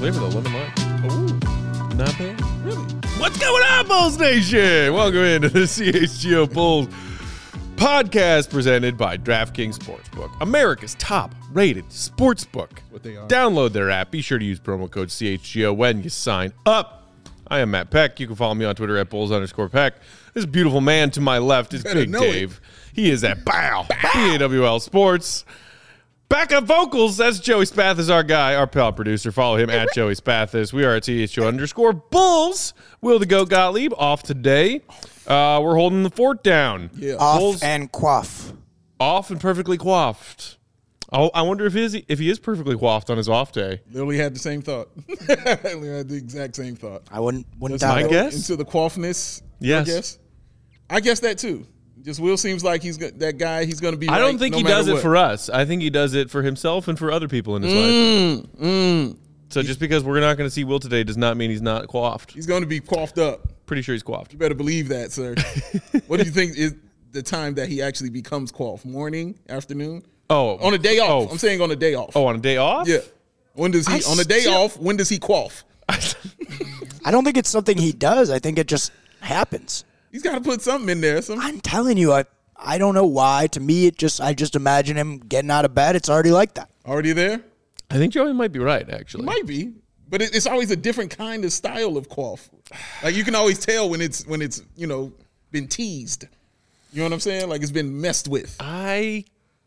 flavor, though. Lemon lime. Ooh, Not bad. really? What's going on, Bulls Nation? Welcome into the CHGO Bulls podcast presented by DraftKings Sportsbook, America's top-rated sportsbook. What they are. Download their app. Be sure to use promo code CHGO when you sign up. I am Matt Peck. You can follow me on Twitter at Bulls_Peck. This beautiful man to my left is Big Dave. He is at BAWL Sports. Backup vocals, that's Joey Spathis, our guy, our pal producer. Follow him at Joey Spathis. We are at CHGO_Bulls. Will the Goat Gottlieb off today. We're holding the fort down. Yeah. Off Bulls, and quaff. off and perfectly coiffed. I wonder if he is perfectly coiffed on his off day. Literally had the same thought. Literally had the exact same thought. I wouldn't Let's doubt my it. go guess? Into the coiffness. Yes. I guess that too. Just Will seems like he's that guy. He's going to be. I don't right think no he matter does it what. for us. I think he does it for himself and for other people in his life. So just because we're not going to see Will today does not mean he's not coiffed. He's going to be coiffed up. Pretty sure he's coiffed. You better believe that, sir. What do you think is the time that he actually becomes coiffed? Morning, afternoon? Oh, On a day off. Oh. I'm saying on a day off. Oh, on a day off? Yeah. When does he? On a day off. When does he cough? I don't think it's something he does. I think it just happens. He's got to put something in there. I'm telling you, I don't know why. To me, I just imagine him getting out of bed. It's already like that. Already there? I think Joey might be right, actually. Might be, but it's always a different kind of style of cough. Like you can always tell when it's been teased. You know what I'm saying? Like it's been messed with. I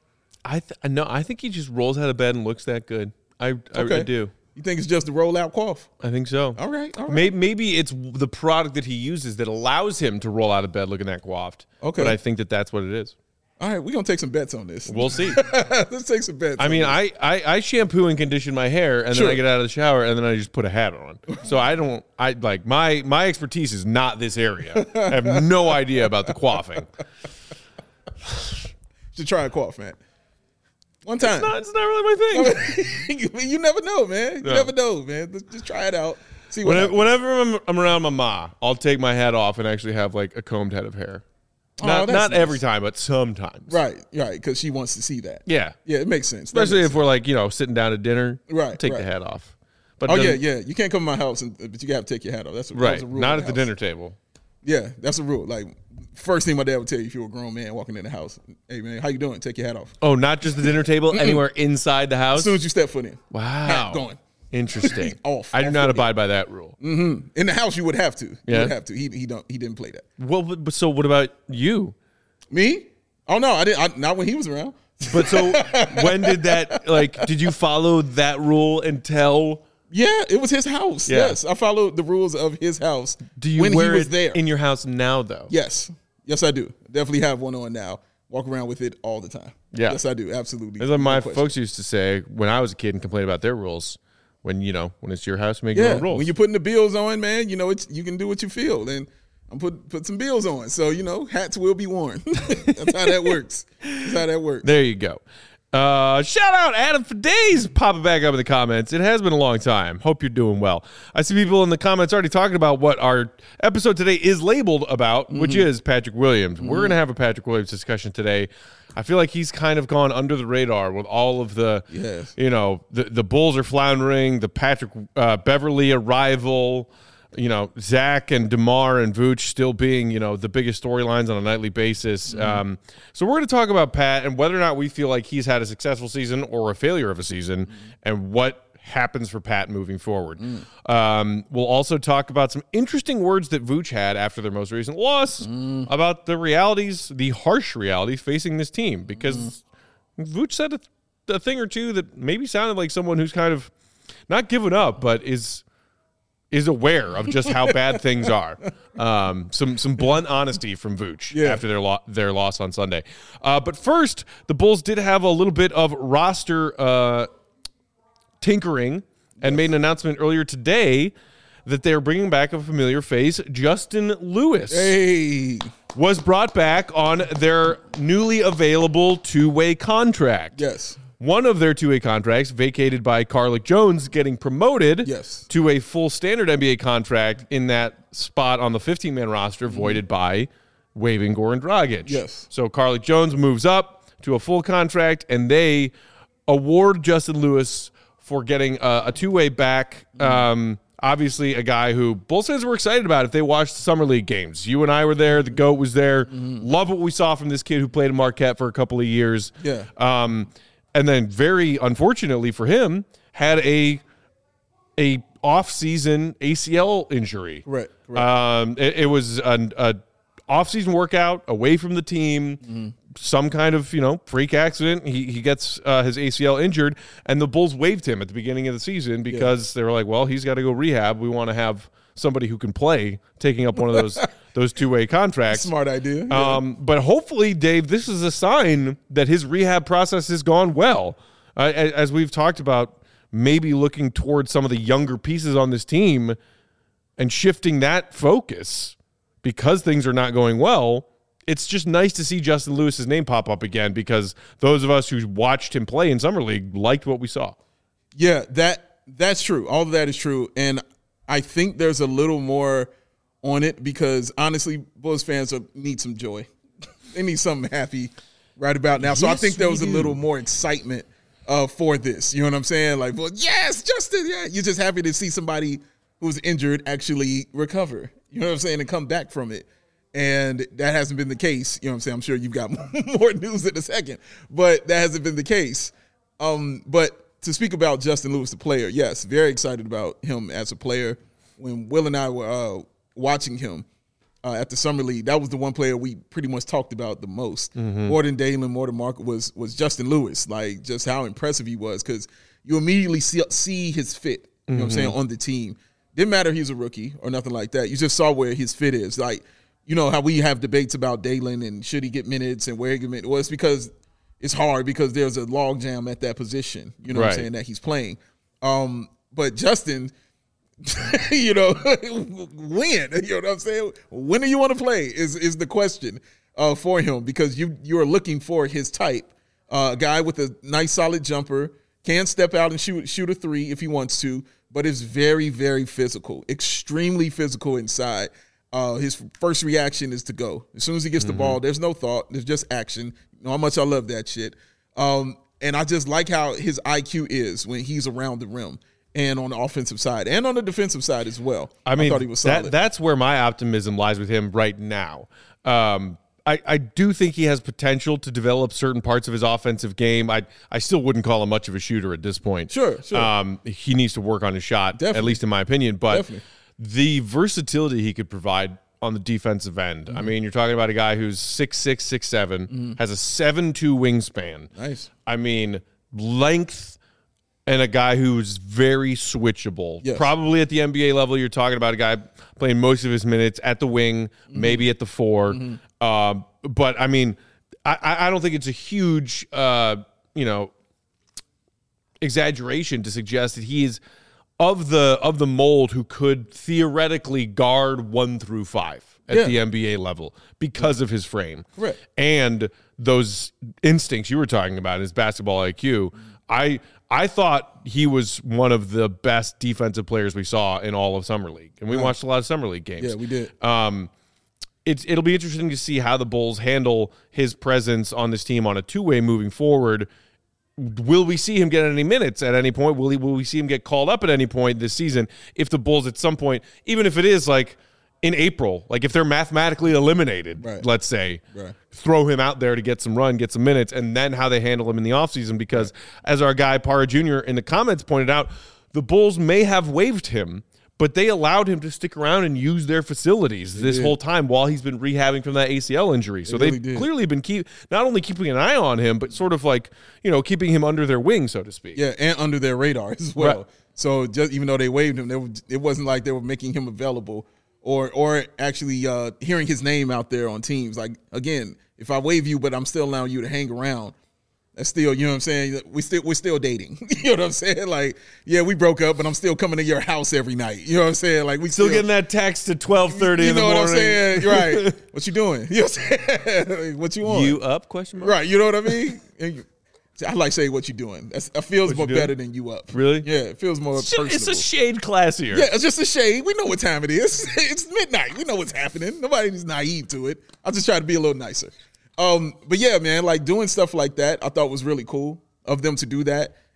think he just rolls out of bed and looks that good. I do. You think it's just a rollout cough? I think so. All right. Maybe it's the product that he uses that allows him to roll out of bed looking that coiffed. Okay. But I think that's what it is. All right, we're going to take some bets on this. We'll see. Let's take some bets. I mean, I shampoo and condition my hair, and then I get out of the shower, and then I just put a hat on. So my expertise is not this area. I have no idea about the coiffing. Should try a cough, man. One time. It's not really my thing. You never know, man. You No. never know, man. Just try it out. See what happens. Whenever I'm around my ma, I'll take my hat off and actually have like a combed head of hair. Oh, Not that's nice. every time, but sometimes. Right, because she wants to see that. Yeah. Yeah, it makes sense. That Especially makes if we're like, sitting down at dinner. Right, Take right. the hat off. But Oh, then- yeah. You can't come to my house, but you got to take your hat off. That's Right. a rule. Not in at the house. dinner table. Yeah, that's a rule. Like, first thing my dad would tell you if you were a grown man walking in the house, hey, man, how you doing? Take your hat off. Oh, not just the dinner table, anywhere inside the house? As soon as you step foot in. Wow. Hat going. Interesting. Off. I do Off not fully. abide by that rule. In the house, you would have to. You Yeah? would have to. He didn't play that. Well, but so what about you? Me? Oh, no, I didn't. Not when he was around. But so when did that, did you follow that rule until? Yeah, it was his house. Yeah. Yes, I followed the rules of his house Do you when wear he was it there. in your house now, though? Yes, I do. Definitely have one on now. Walk around with it all the time. Yeah. Yes, I do. Absolutely. As my No question. folks used to say when I was a kid and complain about their rules. When it's your house, make your Yeah, own rules. when you're putting the bills on, man, you can do what you feel. And I'm put some bills on. So, hats will be worn. That's how that works. There you go. Shout out Adam for days popping back up in the comments. It has been a long time. Hope you're doing well. I see people in the comments already talking about what our episode today is labeled about, which is Patrick Williams. We're going to have a Patrick Williams discussion today. I feel like he's kind of gone under the radar with all of the, Yes. the Bulls are floundering, the Patrick Beverly arrival, Zach and DeMar and Vooch still being, the biggest storylines on a nightly basis. So we're going to talk about Pat and whether or not we feel like he's had a successful season or a failure of a season and what happens for Pat moving forward. We'll also talk about some interesting words that Vooch had after their most recent loss about the harsh realities facing this team, because Vooch said a thing or two that maybe sounded like someone who's kind of not given up, but is aware of just how bad things are. Some blunt honesty from Vooch after their loss on Sunday. But first, the Bulls did have a little bit of roster tinkering and made an announcement earlier today that they're bringing back a familiar face. Justin Lewis was brought back on their newly available two-way contract. Yes. One of their two-way contracts vacated by Carlik Jones getting promoted to a full standard NBA contract in that spot on the 15-man roster voided by waiving Goran Dragic. Yes. So Carlik Jones moves up to a full contract, and they award Justin Lewis for getting a two-way back. Obviously, a guy who Bulls fans were excited about if they watched the Summer League games. You and I were there. The GOAT was there. Love what we saw from this kid who played in Marquette for a couple of years. Yeah. And then, very unfortunately for him, had a off-season ACL injury. Right. It was an off-season workout away from the team. Some kind of freak accident. He gets his ACL injured, and the Bulls waived him at the beginning of the season because they were like, well, he's got to go rehab. We want to have somebody who can play taking up one of those two-way contracts. Smart idea. But hopefully, Dave, this is a sign that his rehab process has gone well. As we've talked about, maybe looking towards some of the younger pieces on this team and shifting that focus because things are not going well. It's just nice to see Justin Lewis's name pop up again because those of us who watched him play in Summer League liked what we saw. Yeah, that's true. All of that is true. And I think there's a little more on it because, honestly, Bulls fans need some joy. They need something happy right about now. So I think there was a little more excitement for this. You know what I'm saying? Like, well, yes, Justin, yeah. You're just happy to see somebody who's injured actually recover. You know what I'm saying? And come back from it. And that hasn't been the case. You know what I'm saying? I'm sure you've got more news in a second. But that hasn't been the case. But to speak about Justin Lewis, the player, yes, very excited about him as a player. When Will and I were watching him at the Summer League, that was the one player we pretty much talked about the most. More than Dalen, more than Mark, was Justin Lewis. Like, just how impressive he was because you immediately see his fit, you know what I'm saying, on the team. Didn't matter if he was a rookie or nothing like that. You just saw where his fit is. Like, you know how we have debates about Dalen and should he get minutes and where he get minutes. Well, it's because it's hard because there's a logjam at that position, you know what I'm saying, that he's playing. But Justin, when? You know what I'm saying? When do you want to play is the question for him because you are looking for his type. A guy with a nice solid jumper, can step out and shoot a three if he wants to, but is very, very physical, extremely physical inside. His first reaction is to go. As soon as he gets the ball, there's no thought. There's just action. You know how much I love that shit. And I just like how his IQ is when he's around the rim and on the offensive side and on the defensive side as well. I thought he was solid. That's where my optimism lies with him right now. I do think he has potential to develop certain parts of his offensive game. I still wouldn't call him much of a shooter at this point. Sure. He needs to work on his shot, at least in my opinion. But the versatility he could provide on the defensive end. I mean, you're talking about a guy who's 6'6", 6'7", has a 7'2" wingspan. Nice. I mean, length, and a guy who's very switchable. Yes. Probably at the NBA level, you're talking about a guy playing most of his minutes at the wing, maybe at the four. But, I mean, I don't think it's a huge, exaggeration to suggest that he is of the mold who could theoretically guard 1 through 5 at the NBA level because of his frame. Right. And those instincts you were talking about, his basketball IQ. I thought he was one of the best defensive players we saw in all of Summer League. And we watched a lot of Summer League games. Yeah, we did. It'll be interesting to see how the Bulls handle his presence on this team on a two-way moving forward. Will we see him get any minutes at any point? Will we see him get called up at any point this season? If the Bulls at some point, even if it is like in April, like if they're mathematically eliminated, let's say, throw him out there to get some run, get some minutes, and then how they handle him in the offseason. Because as our guy Para Jr. in the comments pointed out, the Bulls may have waived him, but they allowed him to stick around and use their facilities this whole time while he's been rehabbing from that ACL injury. So they've clearly been not only keeping an eye on him, but sort of like, keeping him under their wing, so to speak. Yeah, and under their radar as well. Right. So just even though they waived him, it wasn't like they were making him available or actually hearing his name out there on teams. Like, again, if I waive you, but I'm still allowing you to hang around, that's still, you know what I'm saying? We're still dating. You know what I'm saying? Like, yeah, we broke up, but I'm still coming to your house every night. You know what I'm saying? Like, we still getting that text at 12:30 in the morning. You know what I'm saying? Right. What you doing? You know what I'm saying? What you on? You up? Question mark. Right. You know what I mean? I like saying what you doing. That feels more better than you up. Really? Yeah, it feels more personal. It's a shade classier. Yeah, it's just a shade. We know what time it is. It's midnight. We know what's happening. Nobody's naive to it. I'll just try to be a little nicer. But yeah, man, like doing stuff like that, I thought was really cool of them to do that.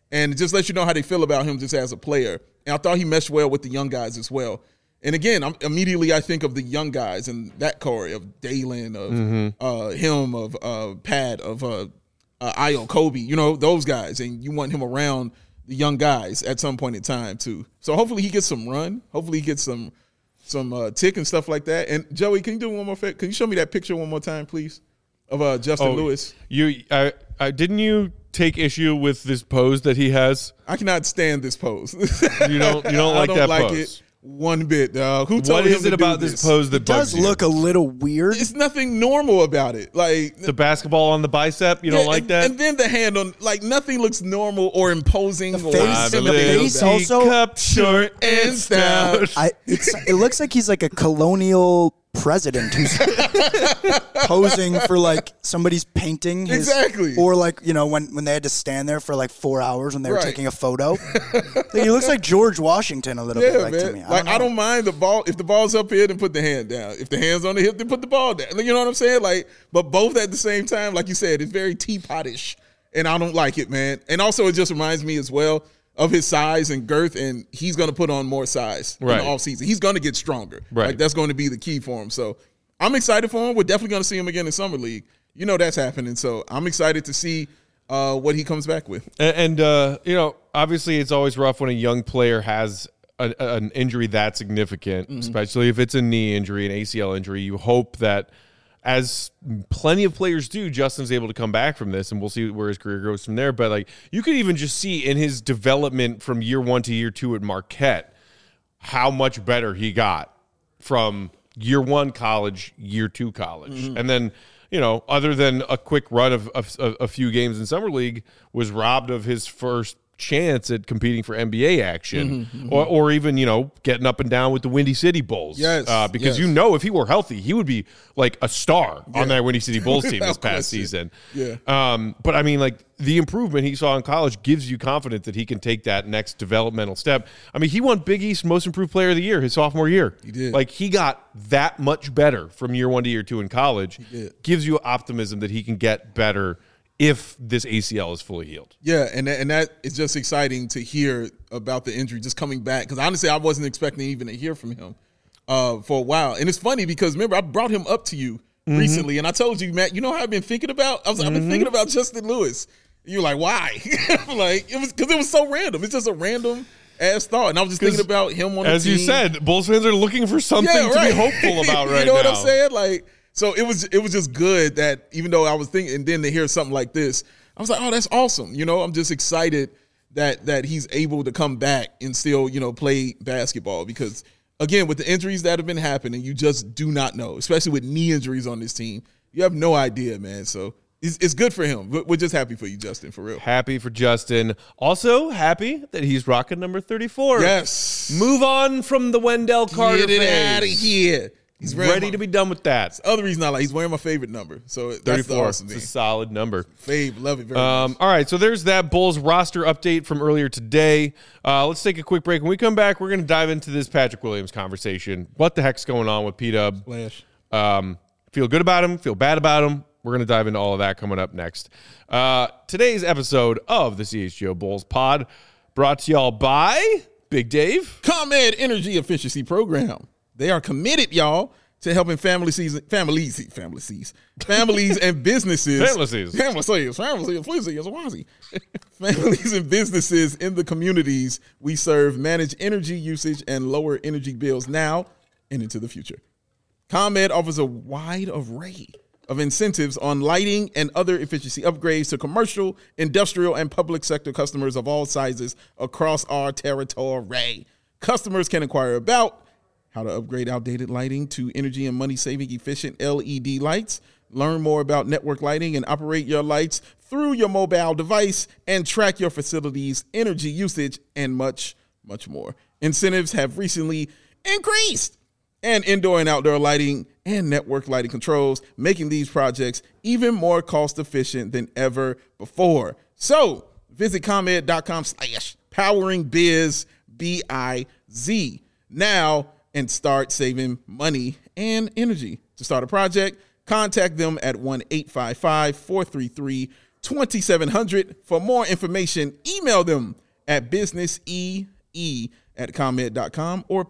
And it just lets you know how they feel about him just as a player. And I thought he meshed well with the young guys as well. And again, immediately I think of the young guys and that core of Dalen, of him, of Pat, of Ayo, Kobe, those guys. And you want him around the young guys at some point in time too. So hopefully he gets some run. Hopefully he gets some tick and stuff like that. And Joey, can you do one more? Can you show me that picture one more time, please, of Justin Lewis? Didn't you take issue with this pose that he has? I cannot stand this pose. You don't like that pose? It one bit, dog. Who told What him is it to about do this pose that It does bugs you? look a little weird. It's nothing normal about it. Like The basketball on the bicep, you don't like that? And then the hand on, like nothing looks normal or imposing. The face- the face also- cup short and stout. It looks like he's like a colonial president who's posing for like somebody's painting his, Exactly. or like when they had to stand there for like 4 hours when they were Right. taking a photo. He looks like George Washington a little bit, like, to me. I don't mind the ball. If the ball's up here, then put the hand down. If the hand's on the hip, then put the ball down. You know what I'm saying? Like, but both at the same time, like you said, it's very teapotish, and I don't like it, man. And also, it just reminds me as well of his size and girth, and he's going to put on more size in the offseason. He's going to get stronger. Right. Like, that's going to be the key for him. So I'm excited for him. We're definitely going to see him again in Summer League. That's happening. So I'm excited to see what he comes back with. And obviously it's always rough when a young player has an injury that significant, especially if it's a knee injury, an ACL injury. You hope that, as plenty of players do, Justin's able to come back from this, and we'll see where his career goes from there. But like, you could even just see in his development from year 1 to year 2 at Marquette how much better he got from year 1 college, year 2 college, and then other than a quick run of a few games in Summer League, was robbed of his first chance at competing for NBA action, or even getting up and down with the Windy City Bulls. Yes, because yes. if he were healthy, he would be like a star on that Windy City Bulls team this past season. Yeah. But I mean, like, the improvement he saw in college gives you confidence that he can take that next developmental step. I mean, he won Big East Most Improved Player of the Year his sophomore year. He did. Like, he got that much better from year 1 to year 2 in college. He did. Gives you optimism that he can get better if this ACL is fully healed. Yeah, and that is just exciting to hear about the injury just coming back, because honestly, I wasn't expecting even to hear from him for a while. And it's funny because, remember, I brought him up to you recently, and I told you, Matt, how I've been thinking about? I've been thinking about Justin Lewis. You're like, why? Like, it was so random. It's just a random ass thought. And I was just thinking about him on the team. As you said, Bulls fans are looking for something to be hopeful about right now. You know what I'm saying? Like, so it was just good that, even though I was thinking, and then to hear something like this, I was like, oh, that's awesome. I'm just excited that he's able to come back and still, play basketball, because again, with the injuries that have been happening, you just do not know, especially with knee injuries on this team. You have no idea, man. So it's good for him. We're just happy for you, Justin, for real. Happy for Justin. Also happy that he's rocking number 34. Yes. Move on from the Wendell Carter Get it phase. out of here. He's ready to be done with that. The other reason I like, he's wearing my favorite number. So that's 34. the awesome thing. It's a solid number. Love it very much. All right, so there's that Bulls roster update from earlier today. Let's take a quick break. When we come back, we're going to dive into this Patrick Williams conversation. What the heck's going on with P-Dub? Flash. Feel good about him, feel bad about him. We're going to dive into all of that coming up next. Today's episode of the CHGO Bulls Pod brought to y'all by Big Dave. ComEd Energy Efficiency Program. They are committed, y'all, to helping families and businesses. Families and businesses in the communities we serve manage energy usage and lower energy bills now and into the future. ComEd offers a wide array of incentives on lighting and other efficiency upgrades to commercial, industrial, and public sector customers of all sizes across our territory. Customers can inquire about how to upgrade outdated lighting to energy and money-saving efficient LED lights, learn more about network lighting and operate your lights through your mobile device, and track your facility's energy usage, and much, much more. Incentives have recently increased, and indoor and outdoor lighting and network lighting controls, making these projects even more cost-efficient than ever before. So visit ComEd.com/poweringbiz, B-I-Z, now and start saving money and energy. To start a project, contact them at 1-855-433 2700. For more information, email them at businessee@comed.com or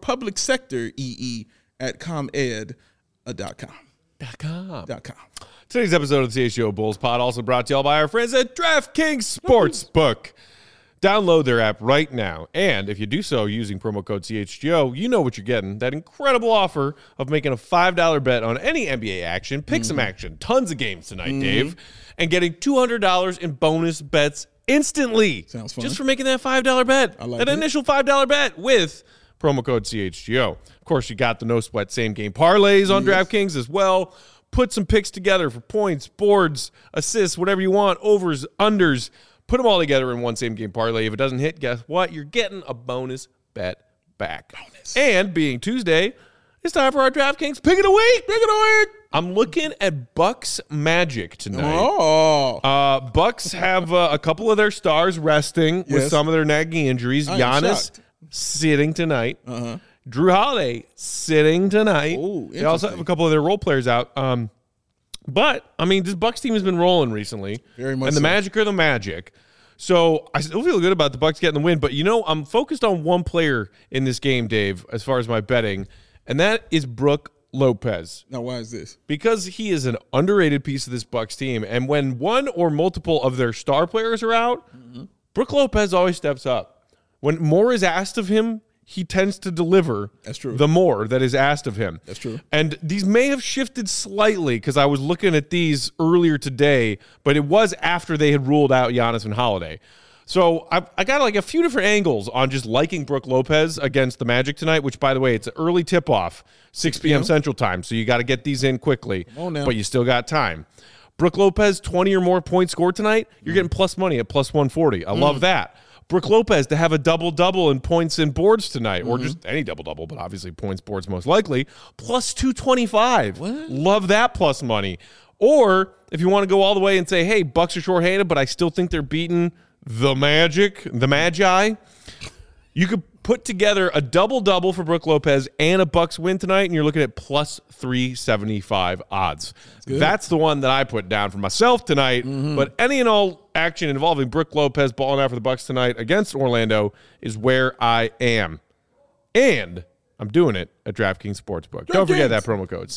publicsectoreE@comed.com. Today's episode of the CHGO Bulls Pod also brought to y'all by our friends at DraftKings Sportsbook. Download their app right now, and if you do so using promo code CHGO, you know what you're getting. That incredible offer of making a $5 bet on any NBA action, pick some action, tons of games tonight, Dave, and getting $200 in bonus bets instantly. Sounds fun. Just for making that $5 bet. I like that it. initial $5 bet with promo code CHGO. Of course, you got the no sweat same game parlays on DraftKings as well. Put some picks together for points, boards, assists, whatever you want, overs, unders. Put them all together in one same game parlay. If it doesn't hit, guess what? You're getting a bonus bet back. And being Tuesday, it's time for our DraftKings Pick of the Week. I'm looking at Bucks Magic tonight. Oh, Bucks have a couple of their stars resting with Yes. some of their nagging injuries. I am Giannis shocked. sitting tonight. Drew Holiday sitting tonight. Oh, they also have a couple of their role players out. But, I mean, this Bucks team has been rolling recently. Very much And the so. Magic are the Magic. So I still feel good about the Bucks getting the win. But, you know, I'm focused on one player in this game, Dave, as far as my betting, and that is Brook Lopez. now why is this? Because he is an underrated piece of this Bucks team. And when one or multiple of their star players are out, Brook Lopez always steps up. When more is asked of him, he tends to deliver. That's true. The more that is asked of him. That's true. And these may have shifted slightly because I was looking at these earlier today, but it was after they had ruled out Giannis and Holiday. So I got like a few different angles on just liking Brook Lopez against the Magic tonight, which, by the way, it's an early tip-off, 6 p.m. Central Time, so you got to get these in quickly. Come on now. But you still got time. Brook Lopez, 20 or more points scored tonight, you're getting plus money at plus 140. I love that. Brook Lopez to have a double-double in points and boards tonight, or just any double-double, but obviously points, boards most likely, plus 225. Love that plus money. Or if you want to go all the way and say, hey, Bucks are shorthanded, but I still think they're beating the Magic, the Magi, you could put together a double-double for Brook Lopez and a Bucks win tonight, and you're looking at plus 375 odds. That's the one that I put down for myself tonight. But any and all action involving Brook Lopez balling out for the Bucks tonight against Orlando is where I am. And I'm doing it at DraftKings Sportsbook. Don't forget that promo code,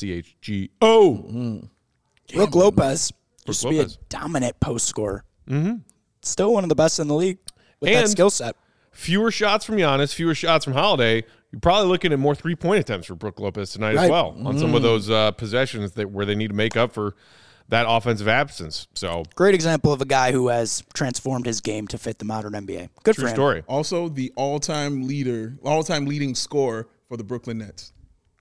CHGO. Brook Lopez used to be a Lopez. dominant post scorer. Still one of the best in the league with that And- skill set. Fewer shots from Giannis, fewer shots from Holiday. You're probably looking at more three-point attempts for Brook Lopez tonight as Right. well on some of those possessions where they need to make up for that offensive absence. So, Great example of a guy who has transformed his game to fit the modern NBA. Good true for him. story. Also, the all-time leading scorer for the Brooklyn Nets.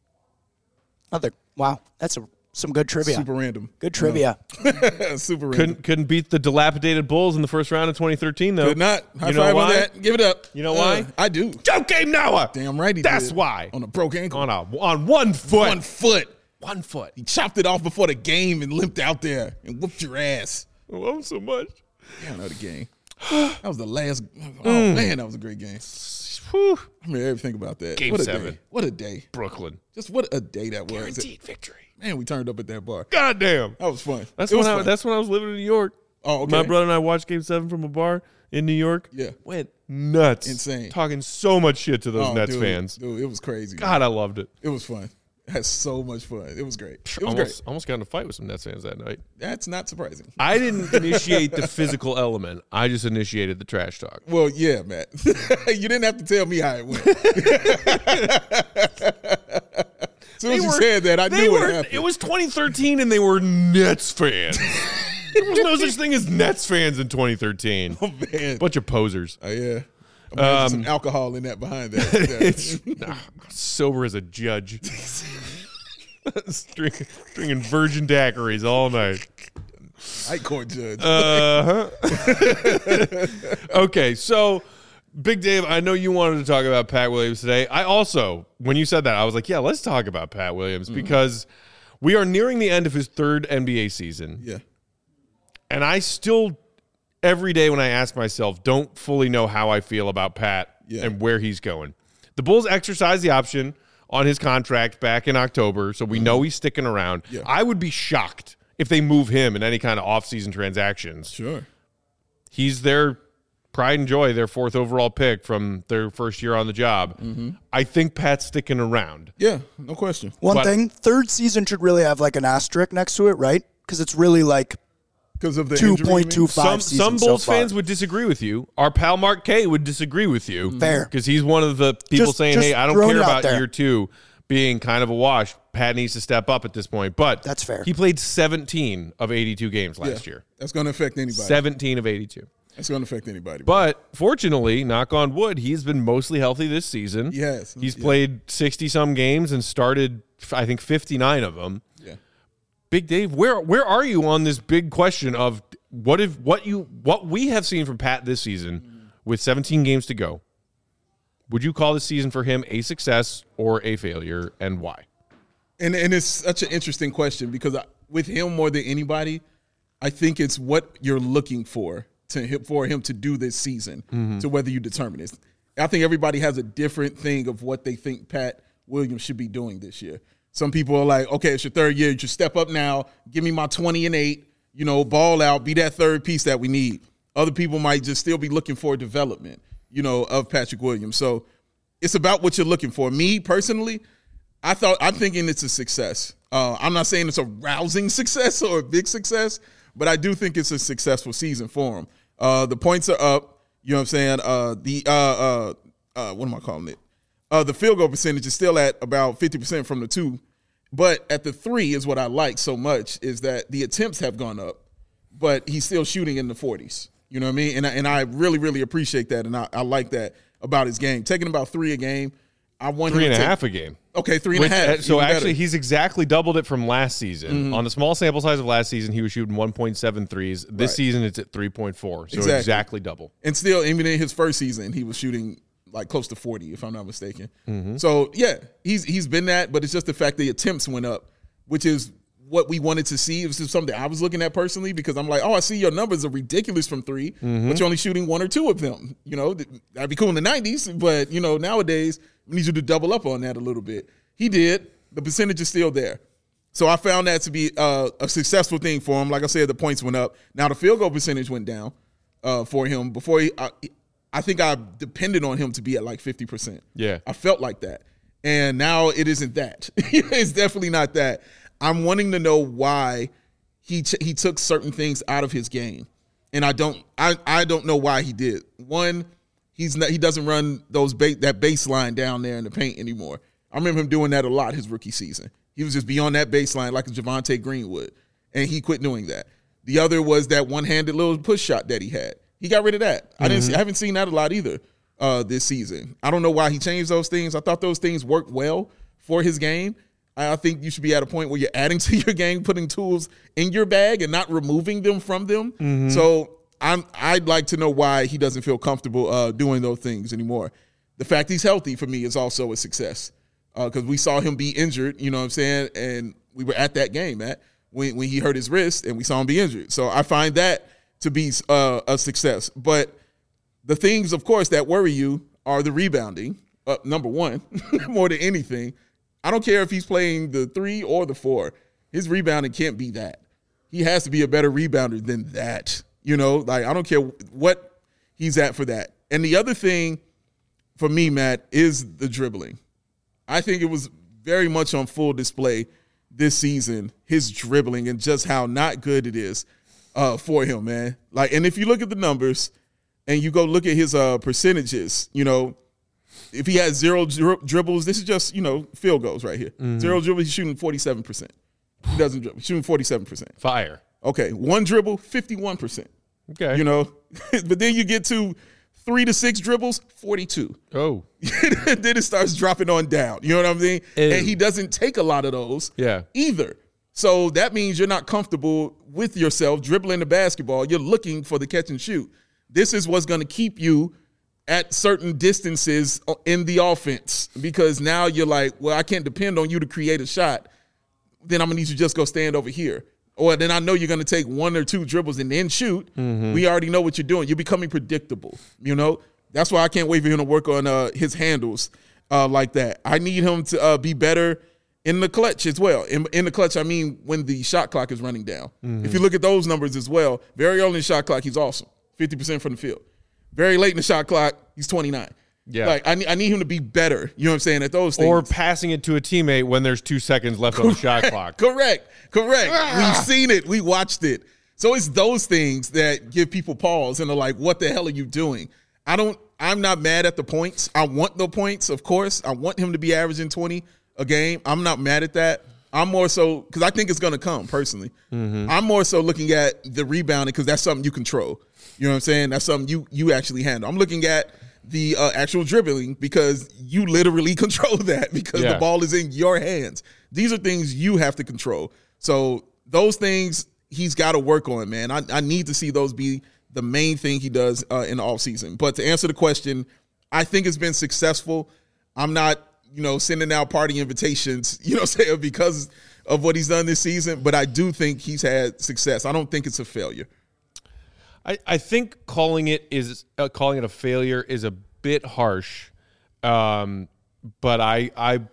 Wow, that's some good trivia. Super random. Good trivia. Super random. Couldn't beat the dilapidated Bulls in the first round of 2013, though. Could not. High You know five why? on that. Give it up. You know why? I do. Joakim Noah. Damn right he That's did. why. On a broke ankle. On one foot. 1 foot. 1 foot. He chopped it off before the game and limped out there and whooped your ass. I love him so much. Yeah, I know the game. That was the last. Oh, man, that was a great game. Whew. I mean, everything about that. Game what a 7. Day. What a day. Brooklyn. Just what a day that was. Guaranteed victory. Man, we turned up at that bar. God damn. That was fun. That's It when was I fun. that's when I was living in New York. Oh, okay. My brother and I watched Game 7 from a bar in New York. Yeah. Went nuts. Insane. Talking so much shit to those Oh, Nets dude, fans. Dude, it was crazy. God, I loved it. It was fun. I had so much fun. It was great. It was great. Almost got in a fight with some Nets fans that night. That's not surprising. I didn't initiate the physical element. I just initiated the trash talk. Well, yeah, Matt. You didn't have to tell me how it went. As soon as you said that, I knew what happened. It was 2013 and they were Nets fans. There was no such thing as Nets fans in 2013. Oh, man. Bunch of posers. Yeah. Imagine some alcohol in that behind that. Nah, sober as a judge. Drinking virgin daiquiris all night. High court judge. Okay, so Big Dave, I know you wanted to talk about Pat Williams today. I also, when you said that, I was like, yeah, let's talk about Pat Williams because we are nearing the end of his third NBA season. Yeah. And I still, every day when I ask myself, don't fully know how I feel about Pat and where he's going. The Bulls exercised the option on his contract back in October, so we know he's sticking around. Yeah. I would be shocked if they move him in any kind of offseason transactions. Sure. He's their pride and joy, their 4th overall pick from their first year on the job. I think Pat's sticking around. Yeah, no question. One thing, 3rd season should really have like an asterisk next to it, right? Because it's really like Because of the 2.25 Some Bulls fans would disagree with you. Our pal Mark K would disagree with you. Fair. Because he's one of the people saying, just hey, I don't throwing care it out about there. year 2 being kind of a wash. Pat needs to step up at this point. But That's fair. He played 17 of 82 games last year. That's going to affect anybody. 17 of 82. That's going to affect anybody. But fortunately, knock on wood, he's been mostly healthy this season. Yes. He's played 60-some games and started, I think, 59 of them. Yeah. Big Dave, where are you on this big question of what we have seen from Pat this season with 17 games to go? Would you call this season for him a success or a failure, and why? And it's such an interesting question because with him more than anybody, I think it's what you're looking for him to do this season to whether you determine it. I think everybody has a different thing of what they think Pat Williams should be doing this year. Some people are like, okay, it's your 3rd year. You should step up now. Give me my 20 and 8, ball out, be that 3rd piece that we need. Other people might just still be looking for development, of Patrick Williams. So it's about what you're looking for. Me personally, I'm thinking it's a success. I'm not saying it's a rousing success or a big success, but I do think it's a successful season for him. The points are up. You know what I'm saying? What am I calling it? The field goal percentage is still at about 50% from the 2, but at the 3 is what I like so much is that the attempts have gone up, but he's still shooting in the 40s. You know what I mean? And I really, really appreciate that, and I like that about his game. Taking about 3 a game. I want 3.5 a game. Okay, 3.5. So actually, he's exactly doubled it from last season. On the small sample size of last season, he was shooting 1.7 threes. This season, it's at 3.4. So exactly double. And still, even in his first season, he was shooting like close to 40, if I'm not mistaken. So yeah, he's been that, but it's just the fact the attempts went up, which is what we wanted to see. It was just something I was looking at personally because I'm like, oh, I see your numbers are ridiculous from 3, but you're only shooting 1 or 2 of them. That'd be cool in the 90s, but nowadays we need you to double up on that a little bit. He did. The percentage is still there. So I found that to be a successful thing for him. Like I said, the points went up. Now the field goal percentage went down for him. Before I think I depended on him to be at like 50%. Yeah. I felt like that. And now it isn't that. It's definitely not that. I'm wanting to know why he took certain things out of his game. And I don't know why he did. One, he doesn't run that baseline down there in the paint anymore. I remember him doing that a lot his rookie season. He was just beyond that baseline like a Javonte Greenwood, and he quit doing that. The other was that one-handed little push shot that he had. He got rid of that. I haven't seen that a lot either this season. I don't know why he changed those things. I thought those things worked well for his game. I think you should be at a point where you're adding to your game, putting tools in your bag and not removing them from them. So I'd like to know why he doesn't feel comfortable doing those things anymore. The fact he's healthy for me is also a success because we saw him be injured, you know what I'm saying, and we were at that game, Matt, when he hurt his wrist and we saw him be injured. So I find that to be a success. But the things, of course, that worry you are the rebounding, number one, more than anything. I don't care if he's playing the 3 or the 4. His rebounding can't be that. He has to be a better rebounder than that. I don't care what he's at for that. And the other thing for me, Matt, is the dribbling. I think it was very much on full display this season, his dribbling and just how not good it is for him, man. And if you look at the numbers and you go look at his percentages, if he has 0 dribbles, this is just, field goals right here. 0 dribbles, he's shooting 47%. He doesn't dribble. He's shooting 47%. Fire. Okay, 1 dribble, 51%. Okay. But then you get to 3 to 6 dribbles, 42. Oh. Then it starts dropping on down. You know what I mean? Ew. And he doesn't take a lot of those either. So that means you're not comfortable with yourself dribbling the basketball. You're looking for the catch and shoot. This is what's going to keep you at certain distances in the offense because now you're like, well, I can't depend on you to create a shot. Then I'm going to need you to just go stand over here. Or then I know you're going to take 1 or 2 dribbles and then shoot. We already know what you're doing. You're becoming predictable, That's why I can't wait for him to work on his handles like that. I need him to be better in the clutch as well. In the clutch, I mean when the shot clock is running down. If you look at those numbers as well, very early in the shot clock, he's awesome, 50% from the field. Very late in the shot clock, he's 29. Yeah. Like, I need him to be better, you know what I'm saying, at those things. Or passing it to a teammate when there's 2 seconds left on the shot clock. Correct. We've seen it. We watched it. So it's those things that give people pause and are like, what the hell are you doing? I'm not mad at the points. I want the points, of course. I want him to be averaging 20 a game. I'm not mad at that. I'm more so, because I think it's going to come, personally. I'm more so looking at the rebounding because that's something you control. You know what I'm saying? That's something you actually handle. I'm looking at the actual dribbling because you literally control that because the ball is in your hands. These are things you have to control. So those things he's got to work on, man. I need to see those be the main thing he does in the offseason. But to answer the question, I think it's been successful. I'm not, sending out party invitations, because of what he's done this season. But I do think he's had success. I don't think it's a failure. I think calling it a failure is a bit harsh, but I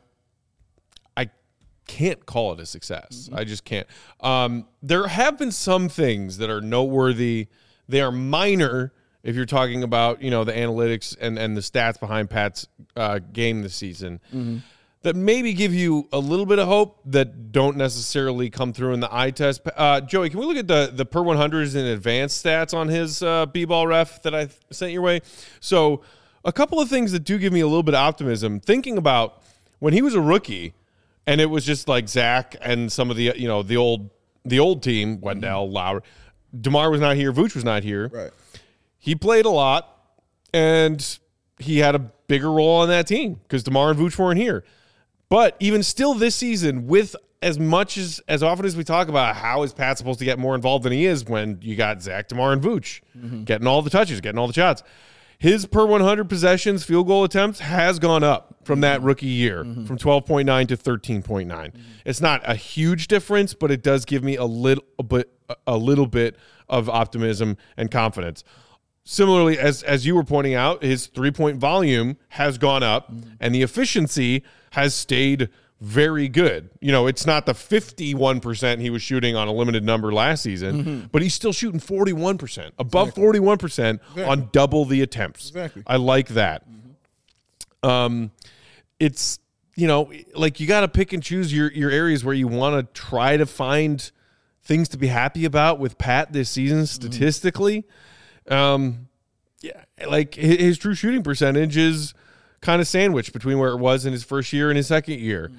can't call it a success. I just can't. There have been some things that are noteworthy. They are minor if you're talking about the analytics and the stats behind Pat's game this season. That maybe give you a little bit of hope that don't necessarily come through in the eye test. Joey, can we look at the per 100s and advanced stats on his B-ball ref that I sent your way? So a couple of things that do give me a little bit of optimism. Thinking about when he was a rookie and it was just like Zach and some of the the old team, Wendell, Lowry. DeMar was not here. Vooch was not here. Right. He played a lot, and he had a bigger role on that team because DeMar and Vooch weren't here. But even still this season, with as often as we talk about how is Pat supposed to get more involved than he is when you got Zach, DeMar, and Vooch getting all the touches, getting all the shots, his per 100 possessions field goal attempts has gone up from that rookie year, from 12.9 to 13.9. It's not a huge difference, but it does give me a little bit of optimism and confidence. Similarly, as you were pointing out, his three-point volume has gone up, and the efficiency has stayed very good. It's not the 51% he was shooting on a limited number last season, but he's still shooting 41%, above 41% on double the attempts. Exactly. I like that. It's, like you got to pick and choose your areas where you want to try to find things to be happy about with Pat this season statistically. Like his true shooting percentage is kind of sandwiched between where it was in his first year and his second year.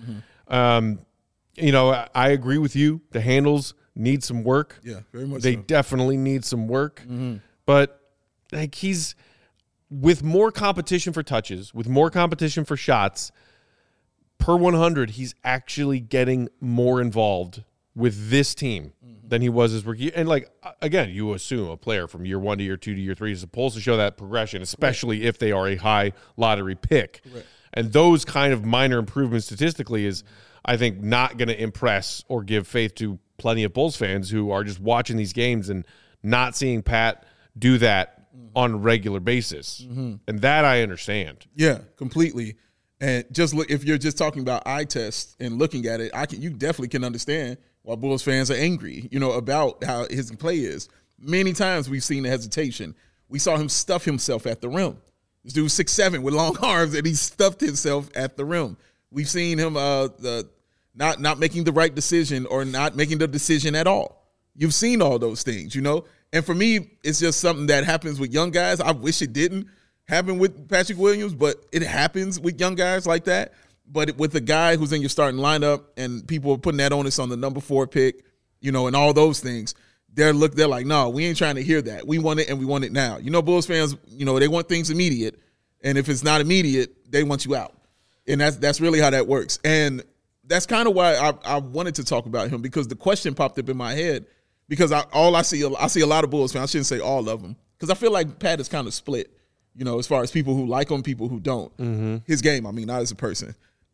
I agree with you. The handles need some work. Yeah, very much They so. definitely need some work. But like he's with more competition for touches, with more competition for shots, per 100, he's actually getting more involved with this team than he was his rookie. And like, again, you assume a player from year 1 to year 2 to year 3 is supposed to show that progression, especially if they are a high lottery pick. Correct. And those kind of minor improvements statistically is, I think, not going to impress or give faith to plenty of Bulls fans who are just watching these games and not seeing Pat do that on a regular basis. And that I understand. Yeah, completely. And just look, if you're just talking about eye tests and looking at it, you definitely can understand why Bulls fans are angry, about how his play is. Many times we've seen the hesitation. We saw him stuff himself at the rim. This dude's 6'7" with long arms, and he stuffed himself at the rim. We've seen him not making the right decision or not making the decision at all. You've seen all those things, And for me, it's just something that happens with young guys. I wish it didn't happen with Patrick Williams, but it happens with young guys like that. But with a guy who's in your starting lineup and people are putting that onus on the number 4 pick, and all those things, they're like, no, we ain't trying to hear that. We want it and we want it now. Bulls fans, they want things immediate. And if it's not immediate, they want you out. And that's really how that works. And that's kind of why I wanted to talk about him, because the question popped up in my head, because I see a lot of Bulls fans. I shouldn't say all of them, because I feel like Pat is kind of split, as far as people who like him, people who don't. His game, not as a person.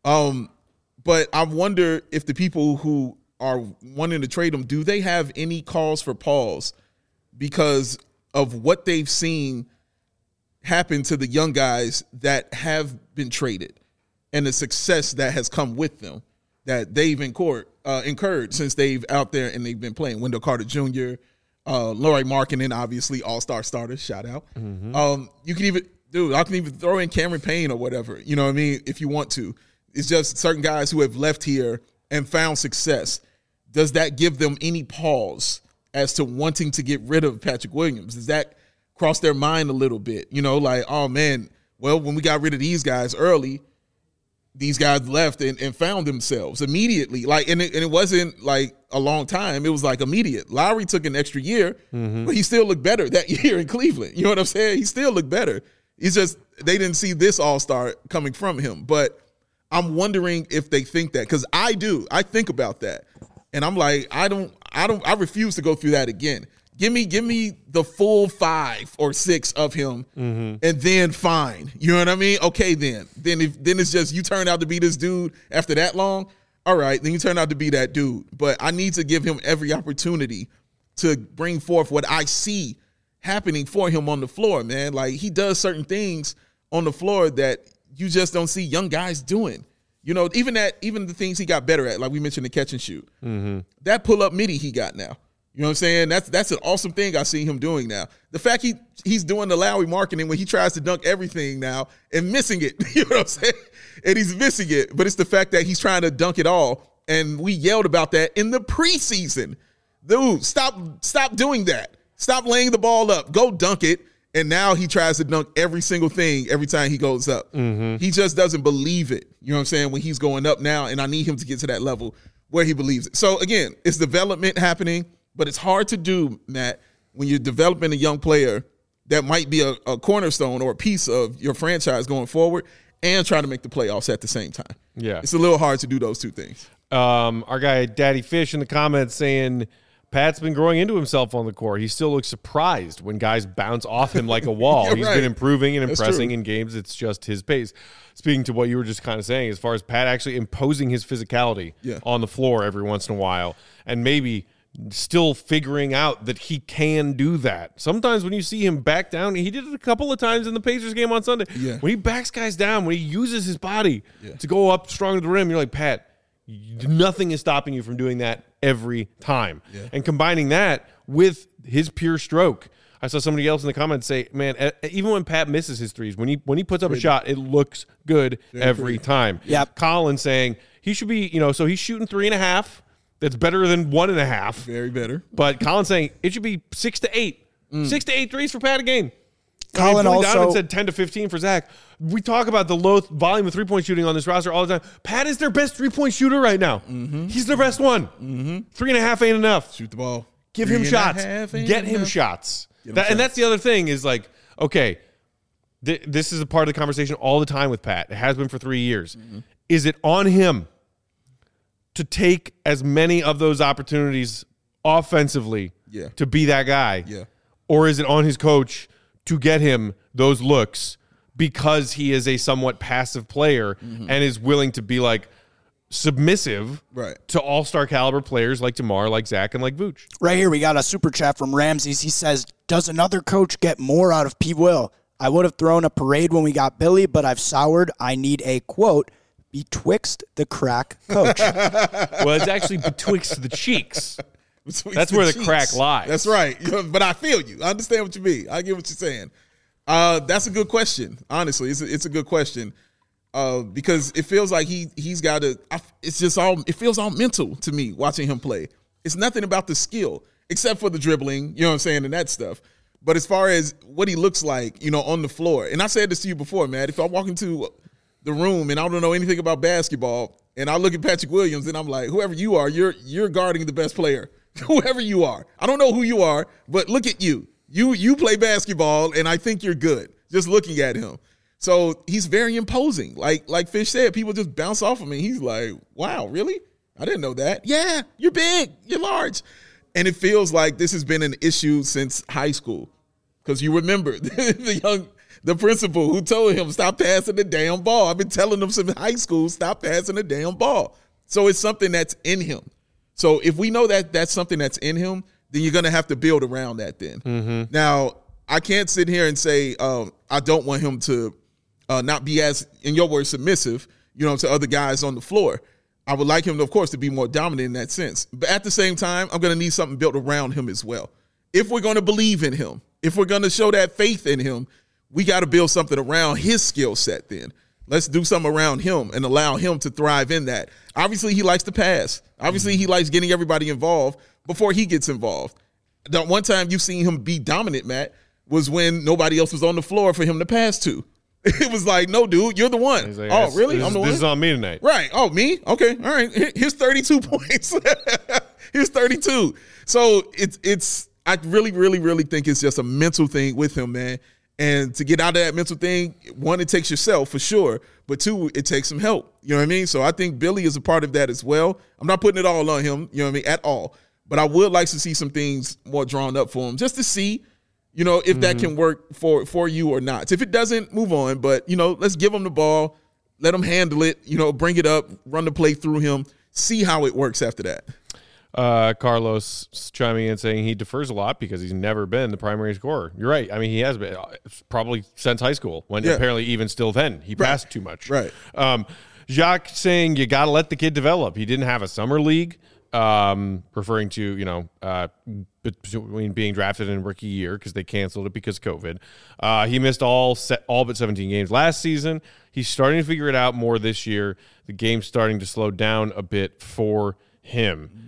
But I wonder if the people who are wanting to trade him, do they have any cause for pause because of what they've seen happen to the young guys that have been traded and the success that has come with them? that they've incurred since they've out there and they've been playing. Wendell Carter Jr., Lauri Markkanen, obviously all-star starters, shout out. You can even, I can even throw in Cameron Payne or whatever, you know what I mean, if you want to. It's just certain guys who have left here and found success. Does that give them any pause as to wanting to get rid of Patrick Williams? Does that cross their mind a little bit? You know, like, oh, man, well, when we got rid of these guys early, these guys left and found themselves immediately. Like, and it wasn't like a long time. It was like immediate. Lowry took an extra year, but he still looked better that year in Cleveland. You know what I'm saying? He still looked better. It's just they didn't see this all-star coming from him. But I'm wondering if they think that, because I do. I think about that. And I'm like, I refuse to go through that again. Give me the full 5 or 6 of him, and then fine. You know what I mean? Okay, then it's just you turn out to be this dude after that long. All right, then you turn out to be that dude. But I need to give him every opportunity to bring forth what I see happening for him on the floor, man. Like, he does certain things on the floor that you just don't see young guys doing. You know, even the things he got better at, like we mentioned the catch and shoot. That pull-up midi he got now. You know what I'm saying? That's an awesome thing I see him doing now. The fact he's doing the Lowry Markkanen when he tries to dunk everything now and missing it. You know what I'm saying? And he's missing it. But it's the fact that he's trying to dunk it all. And we yelled about that in the preseason. Dude, stop doing that. Stop laying the ball up. Go dunk it. And now he tries to dunk every single thing every time he goes up. He just doesn't believe it. You know what I'm saying? When he's going up now, and I need him to get to that level where he believes it. So, again, it's development happening. But it's hard to do, Matt, when you're developing a young player that might be a cornerstone or a piece of your franchise going forward and trying to make the playoffs at the same time. Yeah. It's a little hard to do those two things. Our guy Daddy Fish in the comments saying Pat's been growing into himself on the court. He still looks surprised when guys bounce off him like a wall. He's been improving and impressing in games. It's just his pace. Speaking to what you were just kind of saying, as far as Pat actually imposing his physicality on the floor every once in a while, and maybe – still figuring out that he can do that. Sometimes when you see him back down, he did it a couple of times in the Pacers game on Sunday. Yeah. When he backs guys down, when he uses his body to go up strong to the rim, you're like, Pat, nothing is stopping you from doing that every time. Yeah. And combining that with his pure stroke. I saw somebody else in the comments say, man, even when Pat misses his threes, when he puts up a shot, it looks good every time. Yep. Colin saying he should be, so he's shooting 3.5. That's better than 1.5. Very better. But Colin's saying it should be 6 to 8. 6 to 8 threes for Pat a game. Colin Donovan said 10 to 15 for Zach. We talk about the low volume of three-point shooting on this roster all the time. Pat is their best three-point shooter right now. He's their best one. 3.5 ain't enough. Shoot the ball. Give him shots. Get him shots. And that's the other thing is like, okay, this is a part of the conversation all the time with Pat. It has been for 3 years. Is it on him to take as many of those opportunities offensively to be that guy? Yeah. Or is it on his coach to get him those looks because he is a somewhat passive player and is willing to be like submissive to all-star caliber players like DeMar, like Zach, and like Vooch? Right here, we got a super chat from Ramses. He says, does another coach get more out of P. Will? I would have thrown a parade when we got Billy, but I've soured. I need a, quote, betwixt the crack coach. Well, it's actually betwixt the cheeks. That's where the crack lies. That's right. But I feel you. I understand what you mean. I get what you're saying. That's a good question. Honestly, it's a good question because it feels like he's got to. It feels all mental to me watching him play. It's nothing about the skill except for the dribbling. You know what I'm saying, and that stuff. But as far as what he looks like, on the floor, and I said this to you before, Matt. If I walk into the room and I don't know anything about basketball and I look at Patrick Williams and I'm like, whoever you are, you're guarding the best player. Whoever you are. I don't know who you are, but look at you. You play basketball and I think you're good just looking at him. So he's very imposing. Like Fish said, people just bounce off of him. He's like, wow, really? I didn't know that. Yeah, you're big. You're large. And it feels like this has been an issue since high school because you remember the principal who told him, stop passing the damn ball. I've been telling him since high school, stop passing the damn ball. So it's something that's in him. So if we know that that's something that's in him, then you're going to have to build around that then. Now, I can't sit here and say I don't want him to not be as, in your words, submissive, to other guys on the floor. I would like him, of course, to be more dominant in that sense. But at the same time, I'm going to need something built around him as well. If we're going to believe in him, if we're going to show that faith in him, we got to build something around his skill set then. Let's do something around him and allow him to thrive in that. Obviously, he likes to pass. Obviously, he likes getting everybody involved before he gets involved. The one time you've seen him be dominant, Matt, was when nobody else was on the floor for him to pass to. It was like, no, dude, you're the one. Like, oh, really? I'm the one? This is on me tonight. Right. Oh, me? Okay. All right. Here's 32 points. Here's 32. So it's. I really, really, really think it's just a mental thing with him, man. And to get out of that mental thing, one, it takes yourself for sure, but two, it takes some help. You know what I mean? So I think Billy is a part of that as well. I'm not putting it all on him, you know what I mean, at all. But I would like to see some things more drawn up for him just to see, you know, if that can work for you or not. If it doesn't, move on. But, you know, let's give him the ball, let him handle it, you know, bring it up, run the play through him, see how it works after that. Carlos chiming in saying he defers a lot because he's never been the primary scorer. You're right. I mean, he has been probably since high school when apparently even still then he passed too much. Right. Jacques saying you got to let the kid develop. He didn't have a summer league, referring to, you know, between being drafted in rookie year because they canceled it because of COVID. He missed all but 17 games last season. He's starting to figure it out more this year. The game's starting to slow down a bit for him.